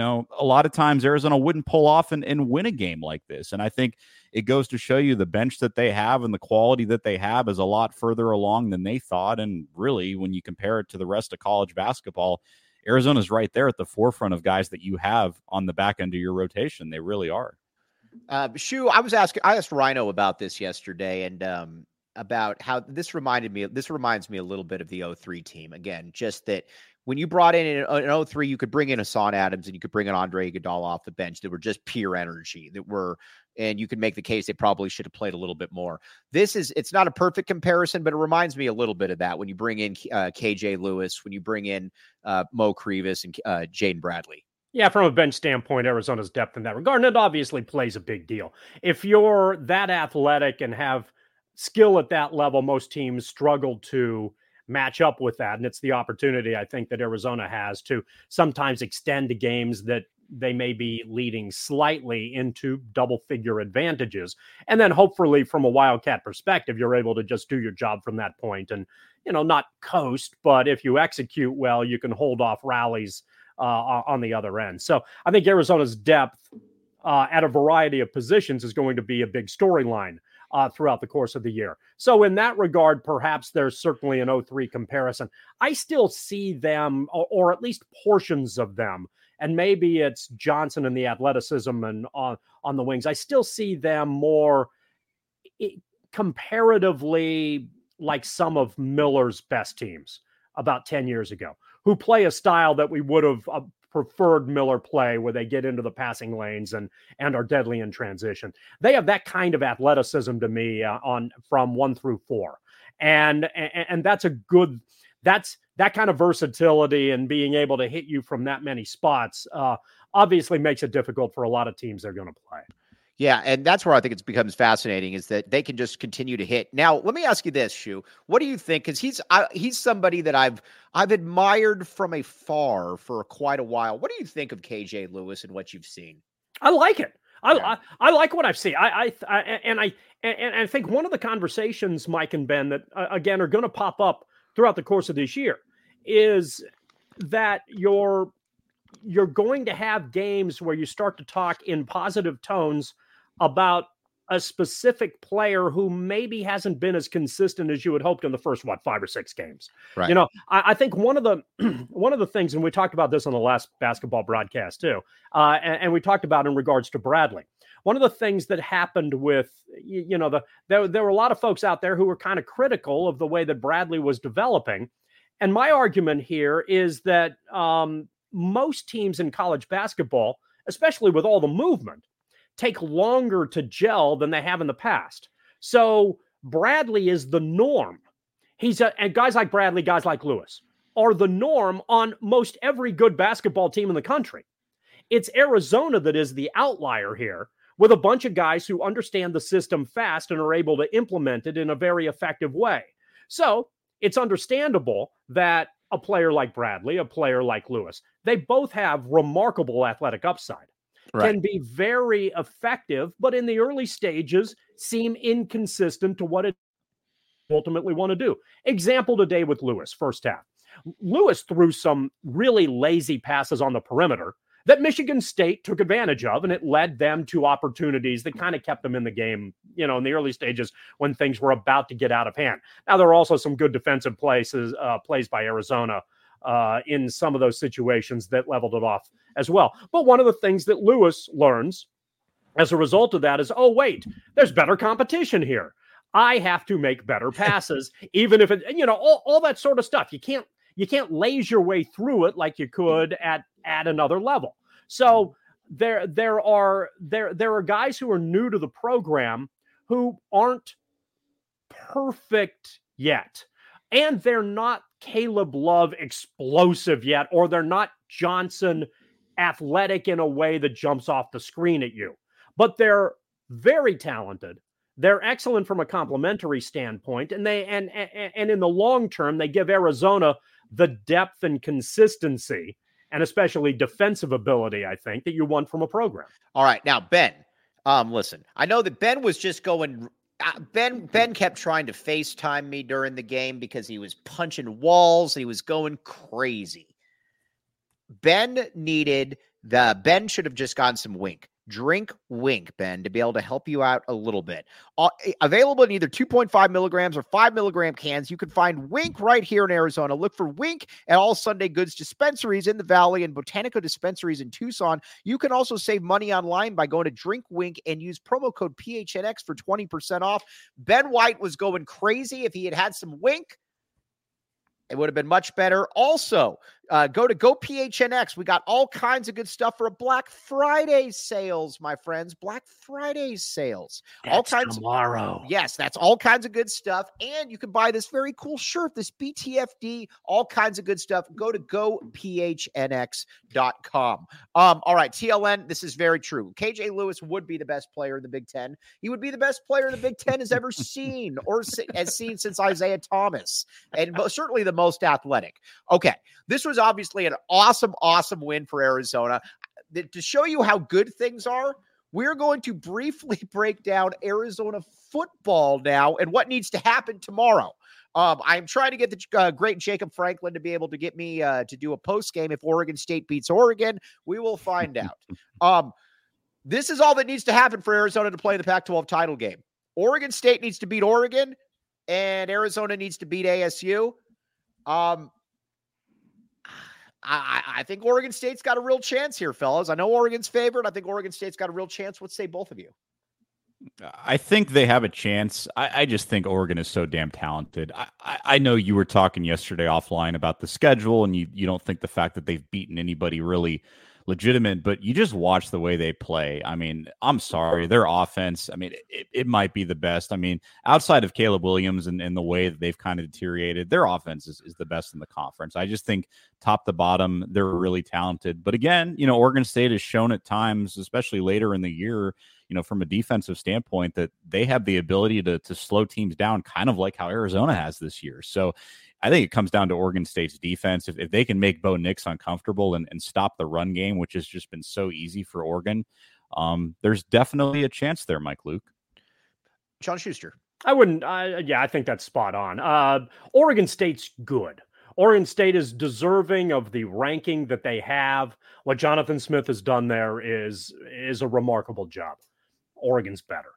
a lot of times Arizona wouldn't pull off and win a game like this. And I think it goes to show you the bench that they have and the quality that they have is a lot further along than they thought. And really, when you compare it to the rest of college basketball, Arizona's right there at the forefront of guys that you have on the back end of your rotation. They really are. Shu, I asked Rhino about this yesterday, and about how this reminds me a little bit of the 03 team. Again, just that when you brought in an 03, you could bring in Hassan Adams and you could bring in Andre Iguodala off the bench that were just pure energy and you could make the case they probably should have played a little bit more. It's not a perfect comparison, but it reminds me a little bit of that when you bring in KJ Lewis, when you bring in Mo Crevis and Jaden Bradley. Yeah, from a bench standpoint, Arizona's depth in that regard, and it obviously plays a big deal. If you're that athletic and have skill at that level, most teams struggle to match up with that. And it's the opportunity, I think, that Arizona has to sometimes extend to games that they may be leading slightly into double-figure advantages. And then hopefully from a Wildcat perspective, you're able to just do your job from that point and, not coast, but if you execute well, you can hold off rallies on the other end. So I think Arizona's depth at a variety of positions is going to be a big storyline throughout the course of the year. So in that regard, perhaps there's certainly an 03 comparison. I still see them, or at least portions of them, and maybe it's Johnson and the athleticism and on the wings. I still see them more comparatively like some of Miller's best teams about 10 years ago, who play a style that we would have preferred Miller play, where they get into the passing lanes and are deadly in transition. They have that kind of athleticism to me from 1 through 4. And that's that kind of versatility and being able to hit you from that many spots obviously makes it difficult for a lot of teams they're going to play. Yeah, and that's where I think it becomes fascinating, is that they can just continue to hit. Now, let me ask you this, Shu. What do you think? Because he's somebody that I've admired from afar for quite a while. What do you think of KJ Lewis and what you've seen? I like it. I like what I've seen. I think one of the conversations, Mike and Ben, that again are going to pop up throughout the course of this year is that you're you're going to have games where you start to talk in positive tones about a specific player who maybe hasn't been as consistent as you had hoped in the first, 5 or 6 games. Right. You know, I think one of the things, and we talked about this on the last basketball broadcast too, and we talked about in regards to Bradley. One of the things that happened with, there were a lot of folks out there who were kind of critical of the way that Bradley was developing. And my argument here is that most teams in college basketball, especially with all the movement, take longer to gel than they have in the past. So Bradley is the norm. And guys like Bradley, guys like Lewis are the norm on most every good basketball team in the country. It's Arizona that is the outlier here, with a bunch of guys who understand the system fast and are able to implement it in a very effective way. So it's understandable that a player like Bradley, a player like Lewis, they both have remarkable athletic upside. Right. Can be very effective, but in the early stages seem inconsistent to what it ultimately want to do. Example today with Lewis, first half. Lewis threw some really lazy passes on the perimeter that Michigan State took advantage of, and it led them to opportunities that kind of kept them in the game, in the early stages when things were about to get out of hand. Now, there are also some good defensive plays by Arizona in some of those situations that leveled it off as well. But one of the things that Lewis learns as a result of that is, oh, wait, there's better competition here. I have to make better passes, even if it, all that sort of stuff. You can't laze your way through it like you could at another level. So there are guys who are new to the program who aren't perfect yet. And they're not Caleb Love explosive yet, or they're not Johnson athletic in a way that jumps off the screen at you. But they're very talented. They're excellent from a complementary standpoint, and and in the long term, they give Arizona the depth and consistency, and especially defensive ability, I think, that you want from a program. All right, now Ben, listen, I know that Ben was just going. Ben kept trying to FaceTime me during the game because he was punching walls. He was going crazy. Ben should have just gotten some Wink. Drink Wink, Ben, to be able to help you out a little bit. Available in either 2.5 milligrams or 5 milligram cans. You can find Wink right here in Arizona. Look for Wink at all Sunday Goods dispensaries in the Valley and Botanica dispensaries in Tucson. You can also save money online by going to Drink Wink and use promo code PHNX for 20% off. Ben White was going crazy. If he had some Wink, it would have been much better. Also, go to GoPHNX. We got all kinds of good stuff for a Black Friday sales, my friends. Black Friday sales. That's all kinds tomorrow. Yes, that's all kinds of good stuff. And you can buy this very cool shirt, this BTFD, all kinds of good stuff. Go to GoPHNX.com. All right, TLN, this is very true. KJ Lewis would be the best player in the Big Ten. He would be the best player the Big Ten has ever seen, or has seen since Isaiah Thomas, and certainly the most athletic. Okay, this was obviously an awesome win for Arizona. To show you how good things are, we're going to briefly break down Arizona football now and what needs to happen tomorrow. I'm trying to get the great Jacob Franklin to be able to get me to do a post game if Oregon State beats Oregon. We will find out. This is all that needs to happen for Arizona to play the Pac-12 title game. Oregon State needs to beat Oregon, and Arizona needs to beat ASU. I think Oregon State's got a real chance here, fellas. I know Oregon's favored. I think Oregon State's got a real chance. What say both of you? I think they have a chance. I just think Oregon is so damn talented. I know you were talking yesterday offline about the schedule, and you don't think the fact that they've beaten anybody really legitimate, but you just watch the way they play. I mean, I'm sorry, their offense, I mean, it might be the best. I mean, outside of Caleb Williams and the way that they've kind of deteriorated, their offense is the best in the conference. I just think top to bottom, they're really talented. But again, Oregon State has shown at times, especially later in the year, from a defensive standpoint, that they have the ability to slow teams down, kind of like how Arizona has this year. So I think it comes down to Oregon State's defense. If they can make Bo Nix uncomfortable and stop the run game, which has just been so easy for Oregon, there's definitely a chance there, Mike Luke. Sean Schuster. I wouldn't. I think that's spot on. Oregon State's good. Oregon State is deserving of the ranking that they have. What Jonathan Smith has done there is a remarkable job. Oregon's better.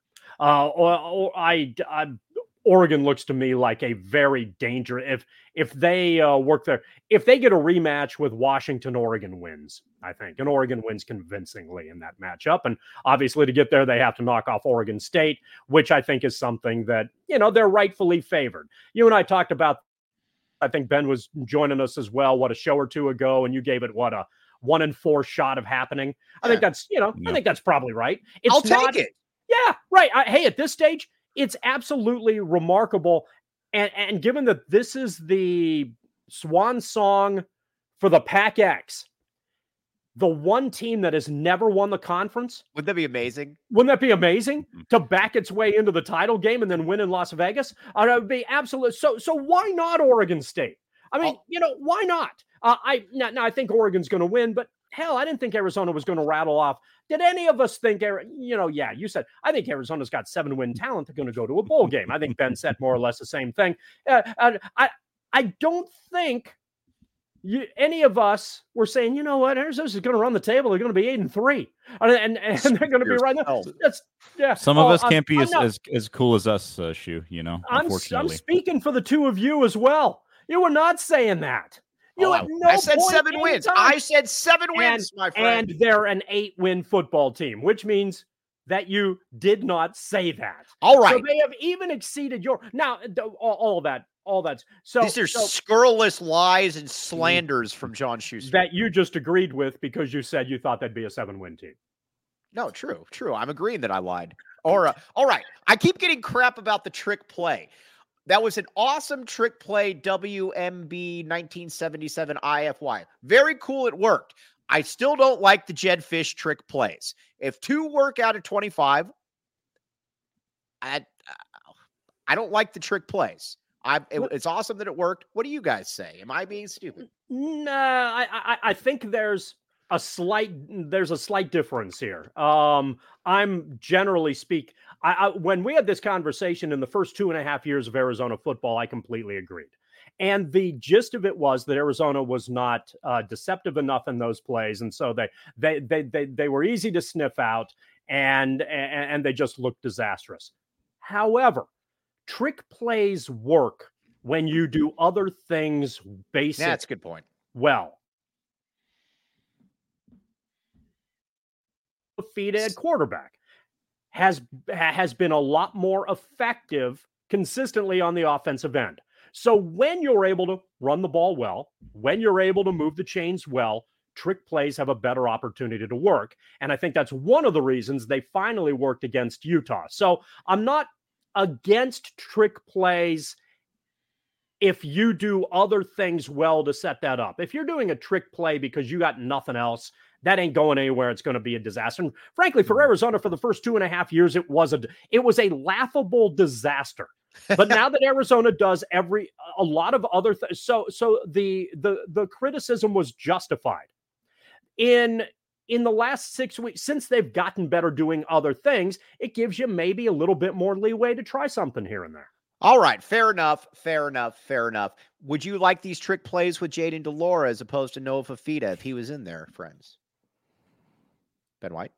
Oregon looks to me like a very dangerous. If they work there, if they get a rematch with Washington, Oregon wins, I think, and Oregon wins convincingly in that matchup. And obviously, to get there, they have to knock off Oregon State, which I think is something that they're rightfully favored. You and I talked about. I think Ben was joining us as well. What, a show or two ago, and you gave it what, a 1 in 4 shot of happening. I think that's I think that's probably right. I'll take it. Yeah, right. Hey, at this stage, it's absolutely remarkable. And given that this is the swan song for the Pac-X, the one team that has never won the conference. Wouldn't that be amazing? Wouldn't that be amazing to back its way into the title game and then win in Las Vegas? It would be absolute. So why not Oregon State? I mean, why not? I think Oregon's going to win, but hell, I didn't think Arizona was going to rattle off. Did any of us think, yeah, you said, I think Arizona's got 7-win talent. They're going to go to a bowl game. I think Ben said more or less the same thing. I don't think any of us were saying, you know what, Arizona's going to run the table. They're going to be 8-3, and they're going to be right there. Some of us can't be as cool as us, Shu. Unfortunately, I'm speaking for the two of you as well. You were not saying that. I said 7 wins. I said 7 wins, my friend. And they're an 8-win football team, which means that you did not say that. All right. So they have even exceeded your. Now, all that. So these are scurrilous lies and slanders from John Schuster that you just agreed with because you said you thought that'd be a 7-win team. No, true. I'm agreeing that I lied. All right. I keep getting crap about the trick play. That was an awesome trick play, WMB 1977 IFY. Very cool. It worked. I still don't like the Jedd Fisch trick plays. If 2 work out of 25, I don't like the trick plays. It's awesome that it worked. What do you guys say? Am I being stupid? Nah, I think there's a slight difference here. I'm generally speak. When we had this conversation in the first 2.5 years of Arizona football, I completely agreed. And the gist of it was that Arizona was not deceptive enough in those plays, and so they were easy to sniff out, and they just looked disastrous. However, trick plays work when you do other things basic. That's a good point. Well, Fifita at quarterback has been a lot more effective consistently on the offensive end. So when you're able to run the ball well, when you're able to move the chains well, trick plays have a better opportunity to work. And I think that's one of the reasons they finally worked against Utah. So I'm not against trick plays if you do other things well to set that up. If you're doing a trick play because you got nothing else, that ain't going anywhere. It's going to be a disaster. And frankly, for Arizona, for the first 2.5 years, it was a laughable disaster. But now that Arizona does a lot of other things, so the criticism was justified. In the last 6 weeks, since they've gotten better doing other things, it gives you maybe a little bit more leeway to try something here and there. All right. Fair enough. Would you like these trick plays with Jayden de Laura as opposed to Noah Fifita if he was in there, friends? Ben White?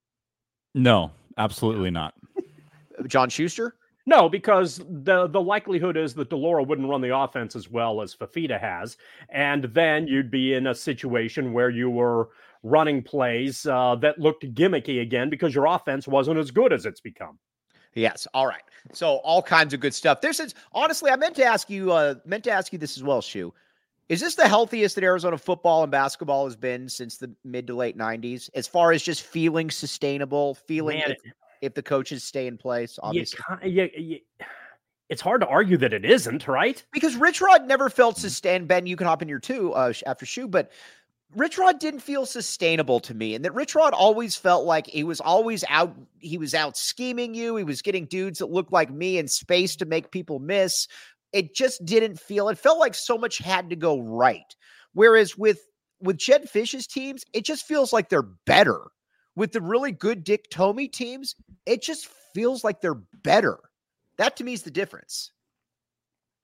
No, absolutely not. John Schuster? No, because the likelihood is that de Laura wouldn't run the offense as well as Fifita has. And then you'd be in a situation where you were running plays that looked gimmicky again because your offense wasn't as good as it's become. Yes. All right. So all kinds of good stuff. Honestly, I meant to ask you this as well, Shu. Is this the healthiest that Arizona football and basketball has been since the mid to late 90s? As far as just feeling sustainable, if the coaches stay in place, obviously. It's hard to argue that it isn't, right? Because Rich Rod never felt sustained. Ben, you can hop in here too after Shu, but Rich Rod didn't feel sustainable to me, and that Rich Rod always felt like he was always out. He was out scheming you. He was getting dudes that looked like me in space to make people miss. It just didn't feel. It felt like so much had to go right. Whereas with Jedd Fisch's teams, it just feels like they're better. With the really good Dick Tomey teams, it just feels like they're better. That to me is the difference.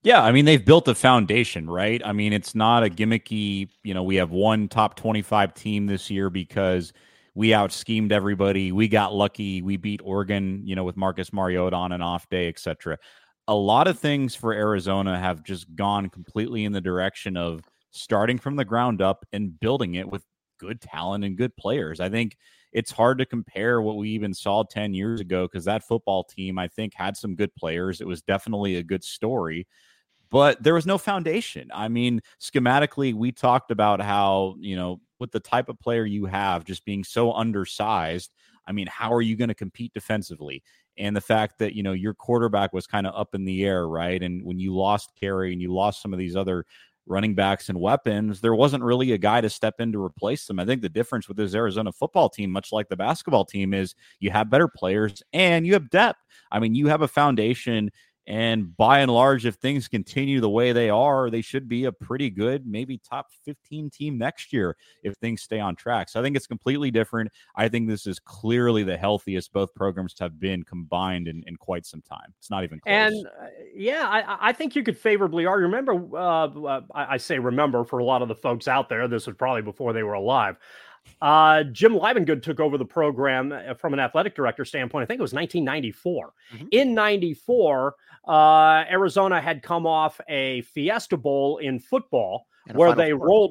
Yeah, I mean, they've built a foundation, right? I mean, it's not a gimmicky, we have one top 25 team this year because we out-schemed everybody. We got lucky. We beat Oregon, with Marcus Mariota on an off day, etc. A lot of things for Arizona have just gone completely in the direction of starting from the ground up and building it with good talent and good players. I think it's hard to compare what we even saw 10 years ago because that football team, I think, had some good players. It was definitely a good story, but there was no foundation. I mean, schematically, we talked about how, with the type of player you have just being so undersized, I mean, how are you going to compete defensively? And the fact that, your quarterback was kind of up in the air, right? And when you lost Carey and you lost some of these other running backs and weapons, there wasn't really a guy to step in to replace them. I think the difference with this Arizona football team, much like the basketball team, is you have better players and you have depth. I mean, you have a foundation. And by and large, if things continue the way they are, they should be a pretty good, maybe top 15 team next year if things stay on track. So I think it's completely different. I think this is clearly the healthiest both programs have been combined in quite some time. It's not even close. And I think you could favorably argue. Remember, I say remember for a lot of the folks out there, this was probably before they were alive. Jim Livengood took over the program from an athletic director standpoint. I think it was 1994. Mm-hmm. In 94, Arizona had come off a Fiesta Bowl in football where they rolled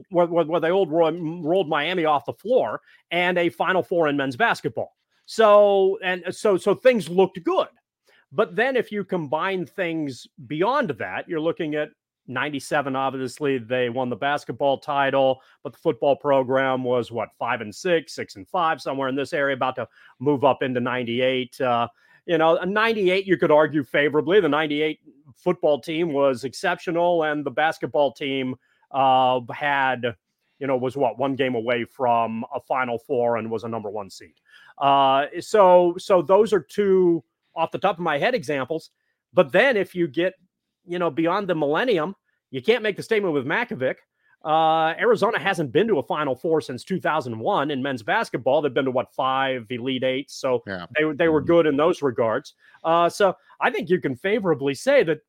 Miami off the floor, and a Final Four in men's basketball. So things looked good. But then if you combine things beyond that, you're looking at 97, obviously, they won the basketball title, but the football program was 5-6, 6-5, somewhere in this area, about to move up into 98. 98, you could argue favorably. The 98 football team was exceptional, and the basketball team was one game away from a Final Four and was a number one seed. So those are two off the top of my head examples. But then if you get beyond the millennium, you can't make the statement with Makovic. Arizona hasn't been to a Final Four since 2001 in men's basketball. They've been to 5 Elite Eights, so yeah. They were good in those regards. So I think you can favorably say that,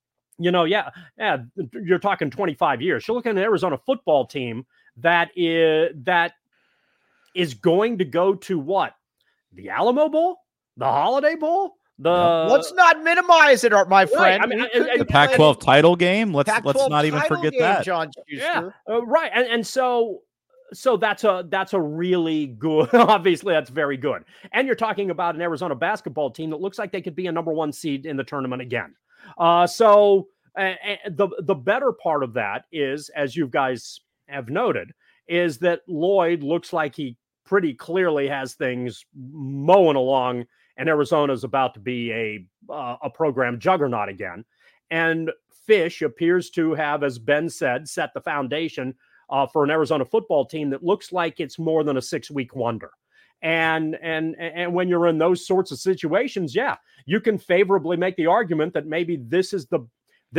you're talking 25 years. You're looking at an Arizona football team that is going to go to what? The Alamo Bowl? The Holiday Bowl? Let's not minimize it, my friend. Right. I mean, the Pac-12 title game. Let's not even forget that, John Schuster. Yeah, right. And so that's a really good. Obviously, that's very good. And you're talking about an Arizona basketball team that looks like they could be a number one seed in the tournament again. So the better part of that is, as you guys have noted, is that Lloyd looks like he pretty clearly has things mowing along. And Arizona's about to be a program juggernaut again. And Fish appears to have, as Ben said, set the foundation for an Arizona football team that looks like it's more than a 6-week wonder. And when you're in those sorts of situations, yeah, you can favorably make the argument that maybe this is the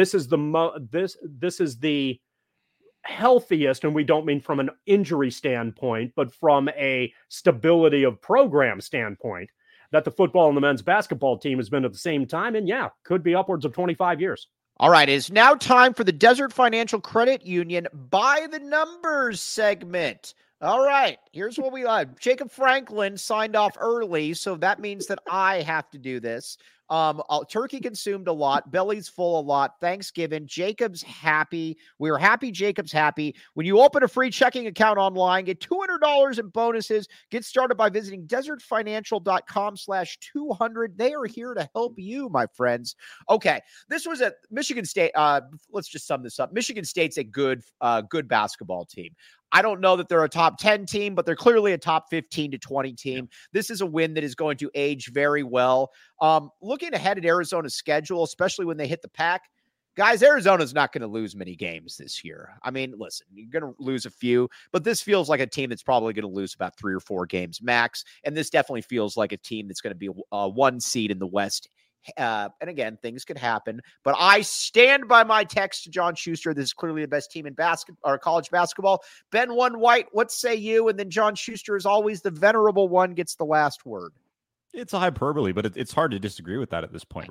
healthiest, and we don't mean from an injury standpoint, but from a stability of program standpoint, that the football and the men's basketball team has been at the same time. And yeah, could be upwards of 25 years. All right. It is now time for the Desert Financial Credit Union By the Numbers segment. All right. Here's what we like. Jacob Franklin signed off early, so that means that I have to do this. Turkey consumed a lot, belly's full a lot, Thanksgiving, Jacob's happy. We're happy, Jacob's happy. When you open a free checking account online, get $200 in bonuses. Get started by visiting desertfinancial.com/200. They are here to help you, my friends. Okay, this was at Michigan State. Let's just sum this up. Michigan State's a good basketball team. I don't know that they're a top 10 team, but they're clearly a top 15 to 20 team. This is a win that is going to age very well. Looking ahead at Arizona's schedule, especially when they hit the pack, guys, Arizona's not going to lose many games this year. I mean, listen, you're going to lose a few, but this feels like a team that's probably going to lose about 3 or 4 games max. And this definitely feels like a team that's going to be a 1 seed in the West. And again, things could happen, but I stand by my text to John Schuster. This is clearly the best team in college basketball. Ben One White, what say you? And then John Schuster, is always the venerable one, gets the last word. It's a hyperbole, but it's hard to disagree with that at this point, right?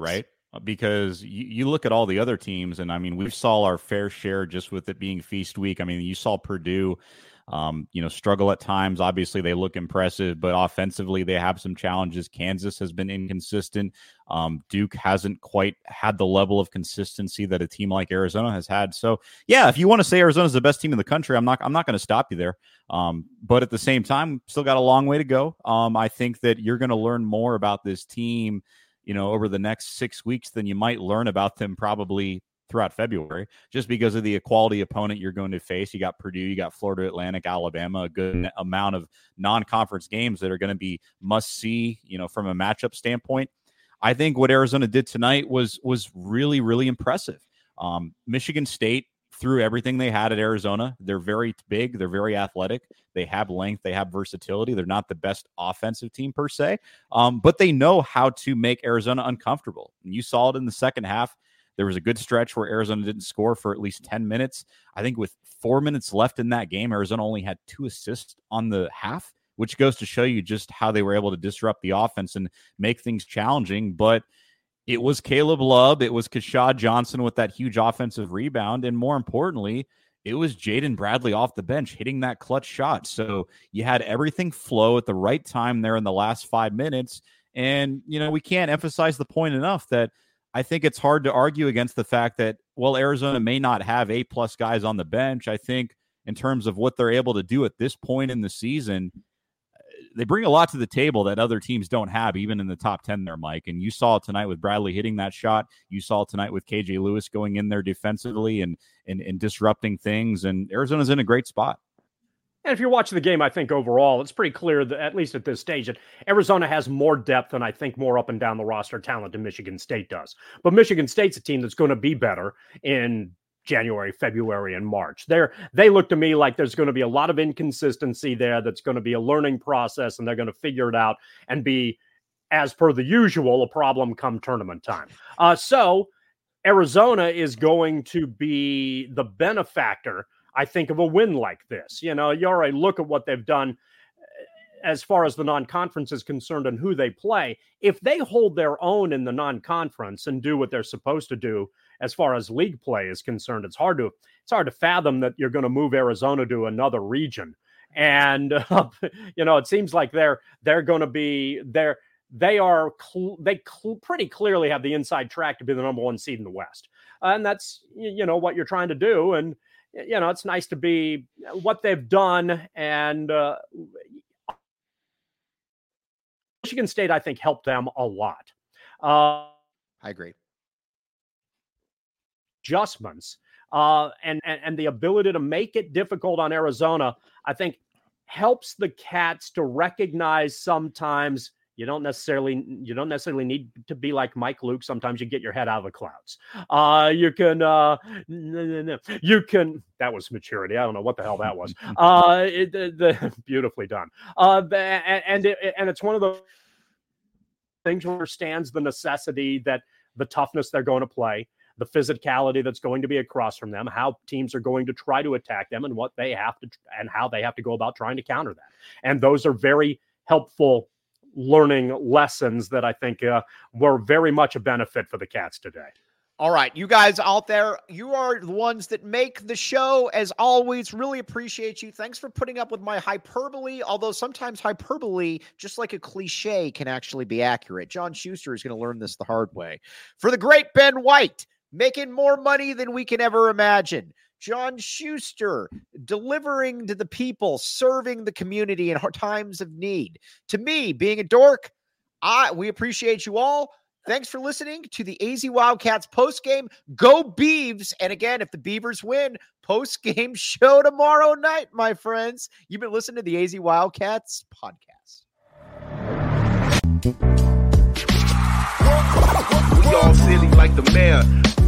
because you look at all the other teams, and I mean, we saw our fair share just with it being feast week. I mean, you saw Purdue, struggle at times. Obviously, they look impressive, but offensively, they have some challenges. Kansas has been inconsistent. Duke hasn't quite had the level of consistency that a team like Arizona has had. So, yeah, if you want to say Arizona's the best team in the country, I'm not going to stop you there. But at the same time, still got a long way to go. I think that you're going to learn more about this team, over the next 6 weeks than you might learn about them probably throughout February, just because of the quality opponent you're going to face. You got Purdue, you got Florida Atlantic, Alabama, a good amount of non-conference games that are going to be must-see, from a matchup standpoint. I think what Arizona did tonight was really, really impressive. Michigan State threw everything they had at Arizona. They're very big. They're very athletic. They have length. They have versatility. They're not the best offensive team per se, but they know how to make Arizona uncomfortable. And you saw it in the second half. There was a good stretch where Arizona didn't score for at least 10 minutes. I think with 4 minutes left in that game, Arizona only had 2 assists on the half, which goes to show you just how they were able to disrupt the offense and make things challenging. But it was Caleb Love. It was Keshad Johnson with that huge offensive rebound. And more importantly, it was Jaden Bradley off the bench hitting that clutch shot. So you had everything flow at the right time there in the last 5 minutes. And, we can't emphasize the point enough that I think it's hard to argue against the fact that, well, Arizona may not have A-plus guys on the bench. I think in terms of what they're able to do at this point in the season, they bring a lot to the table that other teams don't have, even in the top 10 there, Mike. And you saw it tonight with Bradley hitting that shot. You saw it tonight with KJ Lewis going in there defensively and disrupting things. And Arizona's in a great spot. And if you're watching the game, I think overall, it's pretty clear that, at least at this stage, that Arizona has more depth and I think more up and down the roster talent than Michigan State does. But Michigan State's a team that's going to be better in January, February, and March. They look to me like there's going to be a lot of inconsistency there. That's going to be a learning process, and they're going to figure it out and be, as per the usual, a problem come tournament time. So Arizona is going to be the benefactor, I think, of a win like this. You already look at what they've done as far as the non-conference is concerned and who they play. If they hold their own in the non-conference and do what they're supposed to do as far as league play is concerned, it's hard to fathom that you're going to move Arizona to another region. And it seems like they're going to be there. They pretty clearly have the inside track to be the number 1 seed in the West, and that's what you're trying to do. And it's nice to be what they've done. And Michigan State, I think, helped them a lot. I agree. Adjustments and the ability to make it difficult on Arizona, I think, helps the Cats to recognize sometimes you don't necessarily need to be like Mike Luke. Sometimes you get your head out of the clouds. You can. That was maturity. I don't know what the hell that was. Beautifully done. And it's one of those things where stands the necessity that the toughness they're going to play, the physicality that's going to be across from them, how teams are going to try to attack them, and what they have to and how they have to go about trying to counter that. And those are very helpful learning lessons that I think were very much a benefit for the Cats today. All right, you guys out there, you are the ones that make the show. As always, really appreciate you. Thanks for putting up with my hyperbole, although sometimes hyperbole, just like a cliche, can actually be accurate. John Schuster is going to learn this the hard way. For the great Ben White, making more money than we can ever imagine. John Schuster, delivering to the people, serving the community in times of need. To me, being a dork, we appreciate you all. Thanks for listening to the AZ Wildcats postgame. Go Beavs. And again, if the Beavers win, postgame show tomorrow night, my friends. You've been listening to the AZ Wildcats podcast. We all silly like the mayor.